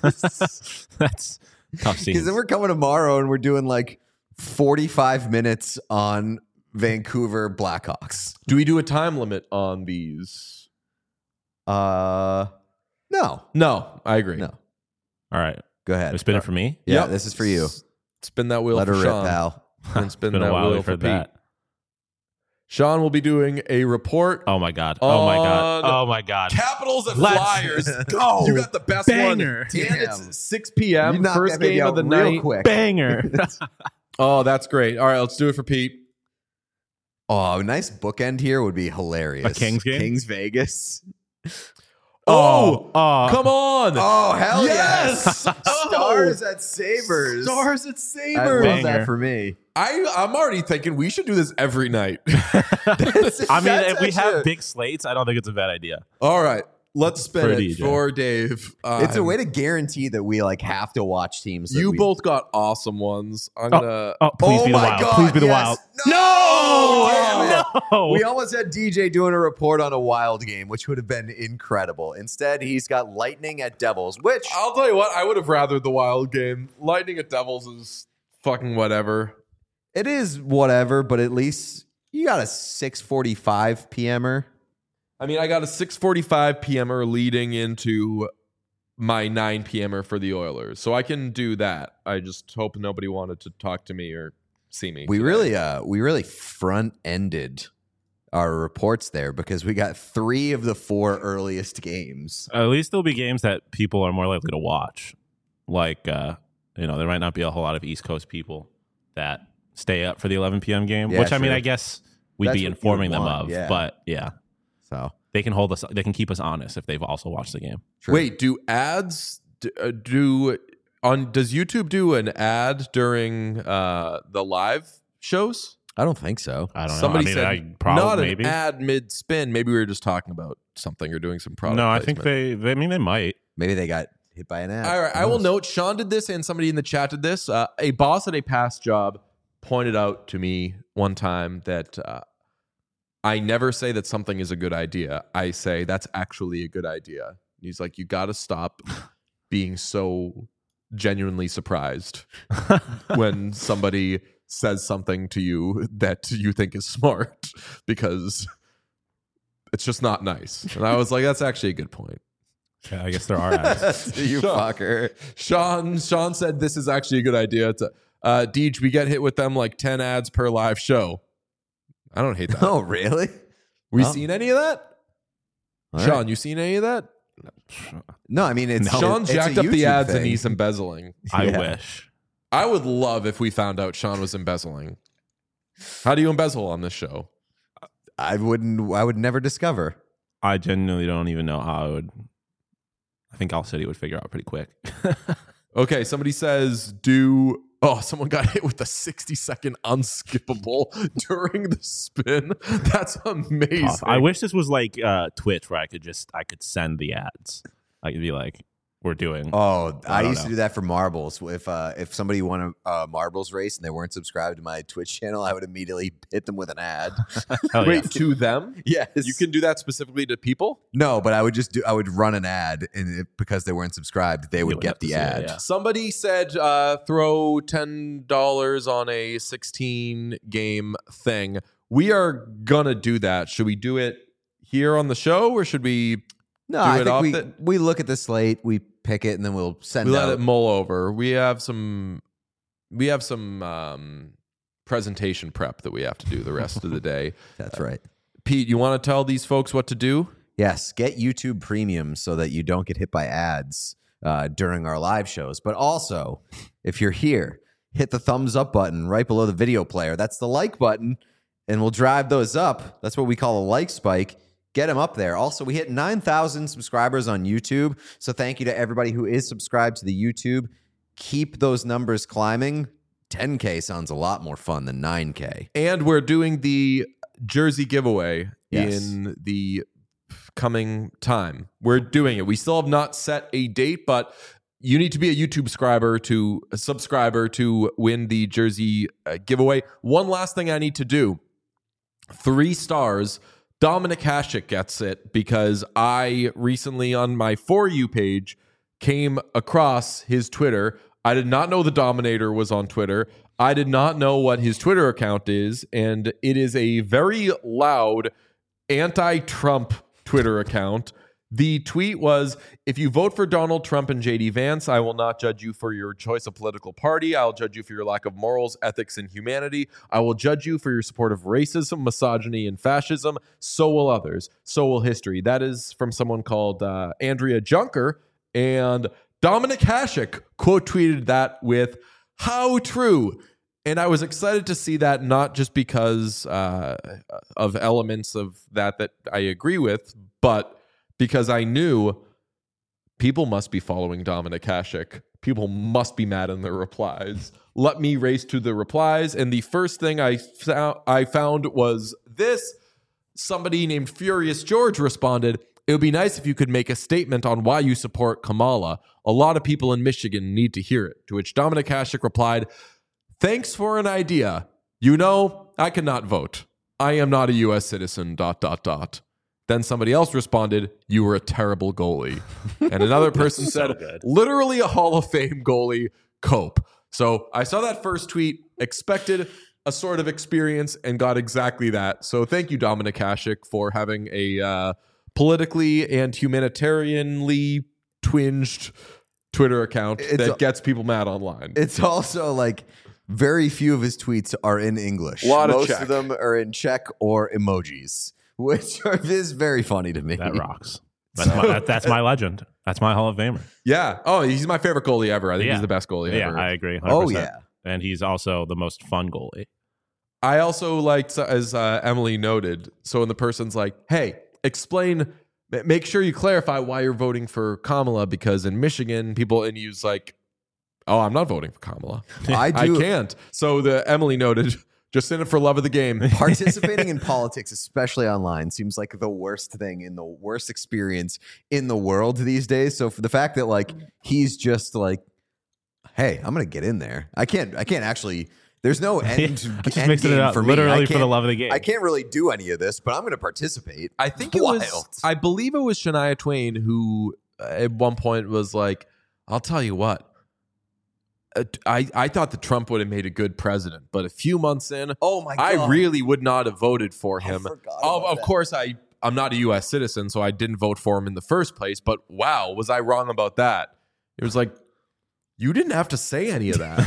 That's tough scenes. Because then we're coming tomorrow and we're doing like 45 minutes on Vancouver Blackhawks. Do we do a time limit on these? No. No, I agree. No. All right. Go ahead. Spin it for me? Yeah, Yep. this is for you. Spin that wheel Let for her rip, Sean. pal. And spin Been that a while wheel we've for heard Pete. that. Sean will be doing a report. Oh my God. Oh my God. On Oh my God. Capitals and Let's Flyers. go. You got the best Banger. one. And Damn. it's 6 p.m. You knocked First that baby game out of the real night. quick. Banger. Oh, that's great. All right, let's do it for Pete. Oh, a nice bookend here would be hilarious. A Kings game? Kings Vegas. Oh, come on. Oh, hell Yes. yes. Stars at Sabres. Stars at I love Sabres. Banger. that for me. I'm already thinking we should do this every night. I mean, That's if we actually have big slates, I don't think it's a bad idea. All right, let's spin For it DJ. for Dave. It's a way to guarantee that we like have to watch teams. That You we, both got awesome ones. I'm gonna. Oh, please Oh be the my Wild. God, Please be the yes. Wild. No! Damn it. No. We almost had DJ doing a report on a Wild game, which would have been incredible. Instead, he's got Lightning at Devils, which I'll tell you what. I would have rathered the Wild game. Lightning at Devils is fucking whatever. it is whatever, but at least you got a 6:45 p.m.er. I mean, I got a 6:45 p.m.er leading into my 9 p.m.er for the Oilers, so I can do that. I just hope nobody wanted to talk to me or see me. We today. really front-ended our reports there because we got 3 of the 4 earliest games. At least there'll be games that people are more likely to watch. Like, there might not be a whole lot of East Coast people that stay up for the 11 p.m. game, Yeah, which I mean, sure. I guess we'd That's be what you informing would them want, of. yeah. But yeah, So they can hold us. They can keep us honest if they've also watched the game. true. Wait, do ads does YouTube do an ad during the live shows? I don't think so. I don't Somebody know. said I mean, probably not maybe. an ad mid-spin. Maybe we were just talking about something or doing some product. No, I think placement. they might. Maybe they got hit by an ad. All right, Who I will knows? note Sean did this and somebody in the chat did this. A boss at a past job pointed out to me one time that I never say that something is a good idea. I say that's actually a good idea. He's like, you got to stop being so genuinely surprised when somebody says something to you that you think is smart, because it's just not nice. And I was like, that's actually a good point. Yeah, I guess there are ads. You fucker. Sean said this is actually a good idea. Deej, we get hit with them like 10 ads per live show. I don't hate that. Oh, really? We seen any of that? All Sean, right. you seen any of that? No, I mean, it's Sean it's a jacked up the YouTube ads and thing. he's embezzling. I Yeah. wish. I would love if we found out Sean was embezzling. How do you embezzle on this show? I would never discover. I genuinely don't even know how I would. I think Al City would figure out pretty quick. Okay, somebody says someone got hit with a 60-second unskippable during the spin. That's amazing. I wish this was like Twitch, where I could send the ads. I could be like, we're doing. Oh, I don't used know. to do that for marbles. If somebody won a marbles race and they weren't subscribed to my Twitch channel, I would immediately hit them with an ad. Hell Wait, yeah. to them? Yes, You can do that specifically to people? No, but I would run an ad, and because they weren't subscribed, they would would get have to the see it, ad. yeah. Somebody said throw $10 on a 16 game thing. We are gonna do that. Should we do it here on the show, or should we No, do I it think off we look at the slate, we pick it, and then we'll send let out. it mull over? We have some presentation prep that we have to do the rest of the day. That's right. Pete, you want to tell these folks what to do? Yes, get YouTube Premium so that you don't get hit by ads during our live shows. But also, if you're here, hit the thumbs up button right below the video player. That's the like button, and we'll drive those up. That's what we call a like spike. Get them up there. Also, we hit 9,000 subscribers on YouTube. So thank you to everybody who is subscribed to the YouTube. Keep those numbers climbing. 10K sounds a lot more fun than 9K. And we're doing the jersey giveaway Yes. in the coming time. We're doing it. We still have not set a date, but you need to be a YouTube subscriber to win the jersey giveaway. One last thing I need to do. 3 stars. Dominic Hasek gets it because I recently on my For You page came across his Twitter. I did not know the Dominator was on Twitter. I did not know what his Twitter account is, and it is a very loud anti-Trump Twitter account. The tweet was, if you vote for Donald Trump and JD Vance, I will not judge you for your choice of political party. I'll judge you for your lack of morals, ethics, and humanity. I will judge you for your support of racism, misogyny, and fascism. So will others. So will history. That is from someone called Andrea Junker. And Dominic Hasek quote tweeted that with, how true. And I was excited to see that, not just because of elements of that I agree with, but because I knew people must be following Dominic Hasek. People must be mad in their replies. Let me race to the replies. And the first thing I found was this. Somebody named Furious George responded, it would be nice if you could make a statement on why you support Kamala. A lot of people in Michigan need to hear it. To which Dominic Hasek replied, thanks for an idea. You know, I cannot vote. I am not a U.S. citizen, ... Then somebody else responded, you were a terrible goalie. And another person said, literally a Hall of Fame goalie, Cope. So I saw that first tweet, expected a sort of experience, and got exactly that. So thank you, Dominic Hasek, for having a politically and humanitarianly twinged Twitter account that gets people mad online. It's also like very few of his tweets are in English. Most of them are in Czech or emojis, which is very funny to me. That rocks. That's my legend. That's my Hall of Famer. Yeah. Oh, he's my favorite goalie ever. I think he's the best goalie Yeah, ever. I agree. 100%. Oh, yeah. And he's also the most fun goalie. I also liked, as Emily noted, so when the person's like, hey, make sure you clarify why you're voting for Kamala, because in Michigan, people, and he's like, oh, I'm not voting for Kamala. I can't. So the Emily noted, just in it for love of the game. Participating in politics, especially online, seems like the worst thing in the worst experience in the world these days. So for the fact that like he's just like, hey, I'm gonna get in there. I can't actually. There's no end. Just end mixing it game up, for me. literally for the love of the game. I can't really do any of this, but I'm gonna participate. I think it was, I believe it was Shania Twain who at one point was like, I'll tell you what, I thought that Trump would have made a good president, but a few months in, Oh my God. I really would not have voted for him. forgot about Of that. course, I'm not a U.S. citizen, so I didn't vote for him in the first place. But wow, was I wrong about that? It was like, you didn't have to say any of that.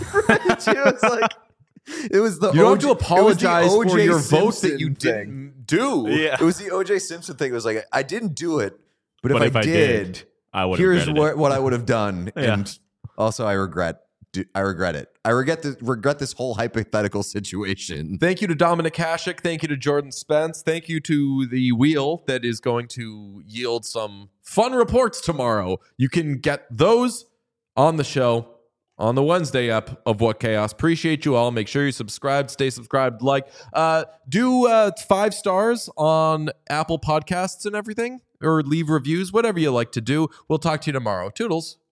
It was the You don't have to OJ apologize it was the for O.J. your vote that Simpson you thing. didn't do. Yeah. It was the O.J. Simpson thing. It was like, I didn't do it, but if I did, I would have here's regretted it. what I would have done. Yeah. And also, I regret it. I regret this whole hypothetical situation. Thank you to Dominic Hasek. Thank you to Jordan Spence. Thank you to the wheel that is going to yield some fun reports tomorrow. You can get those on the show on the Wednesday ep of What Chaos. Appreciate you all. Make sure you subscribe, stay subscribed, do 5 stars on Apple Podcasts and everything, or leave reviews, whatever you like to do. We'll talk to you tomorrow. Toodles.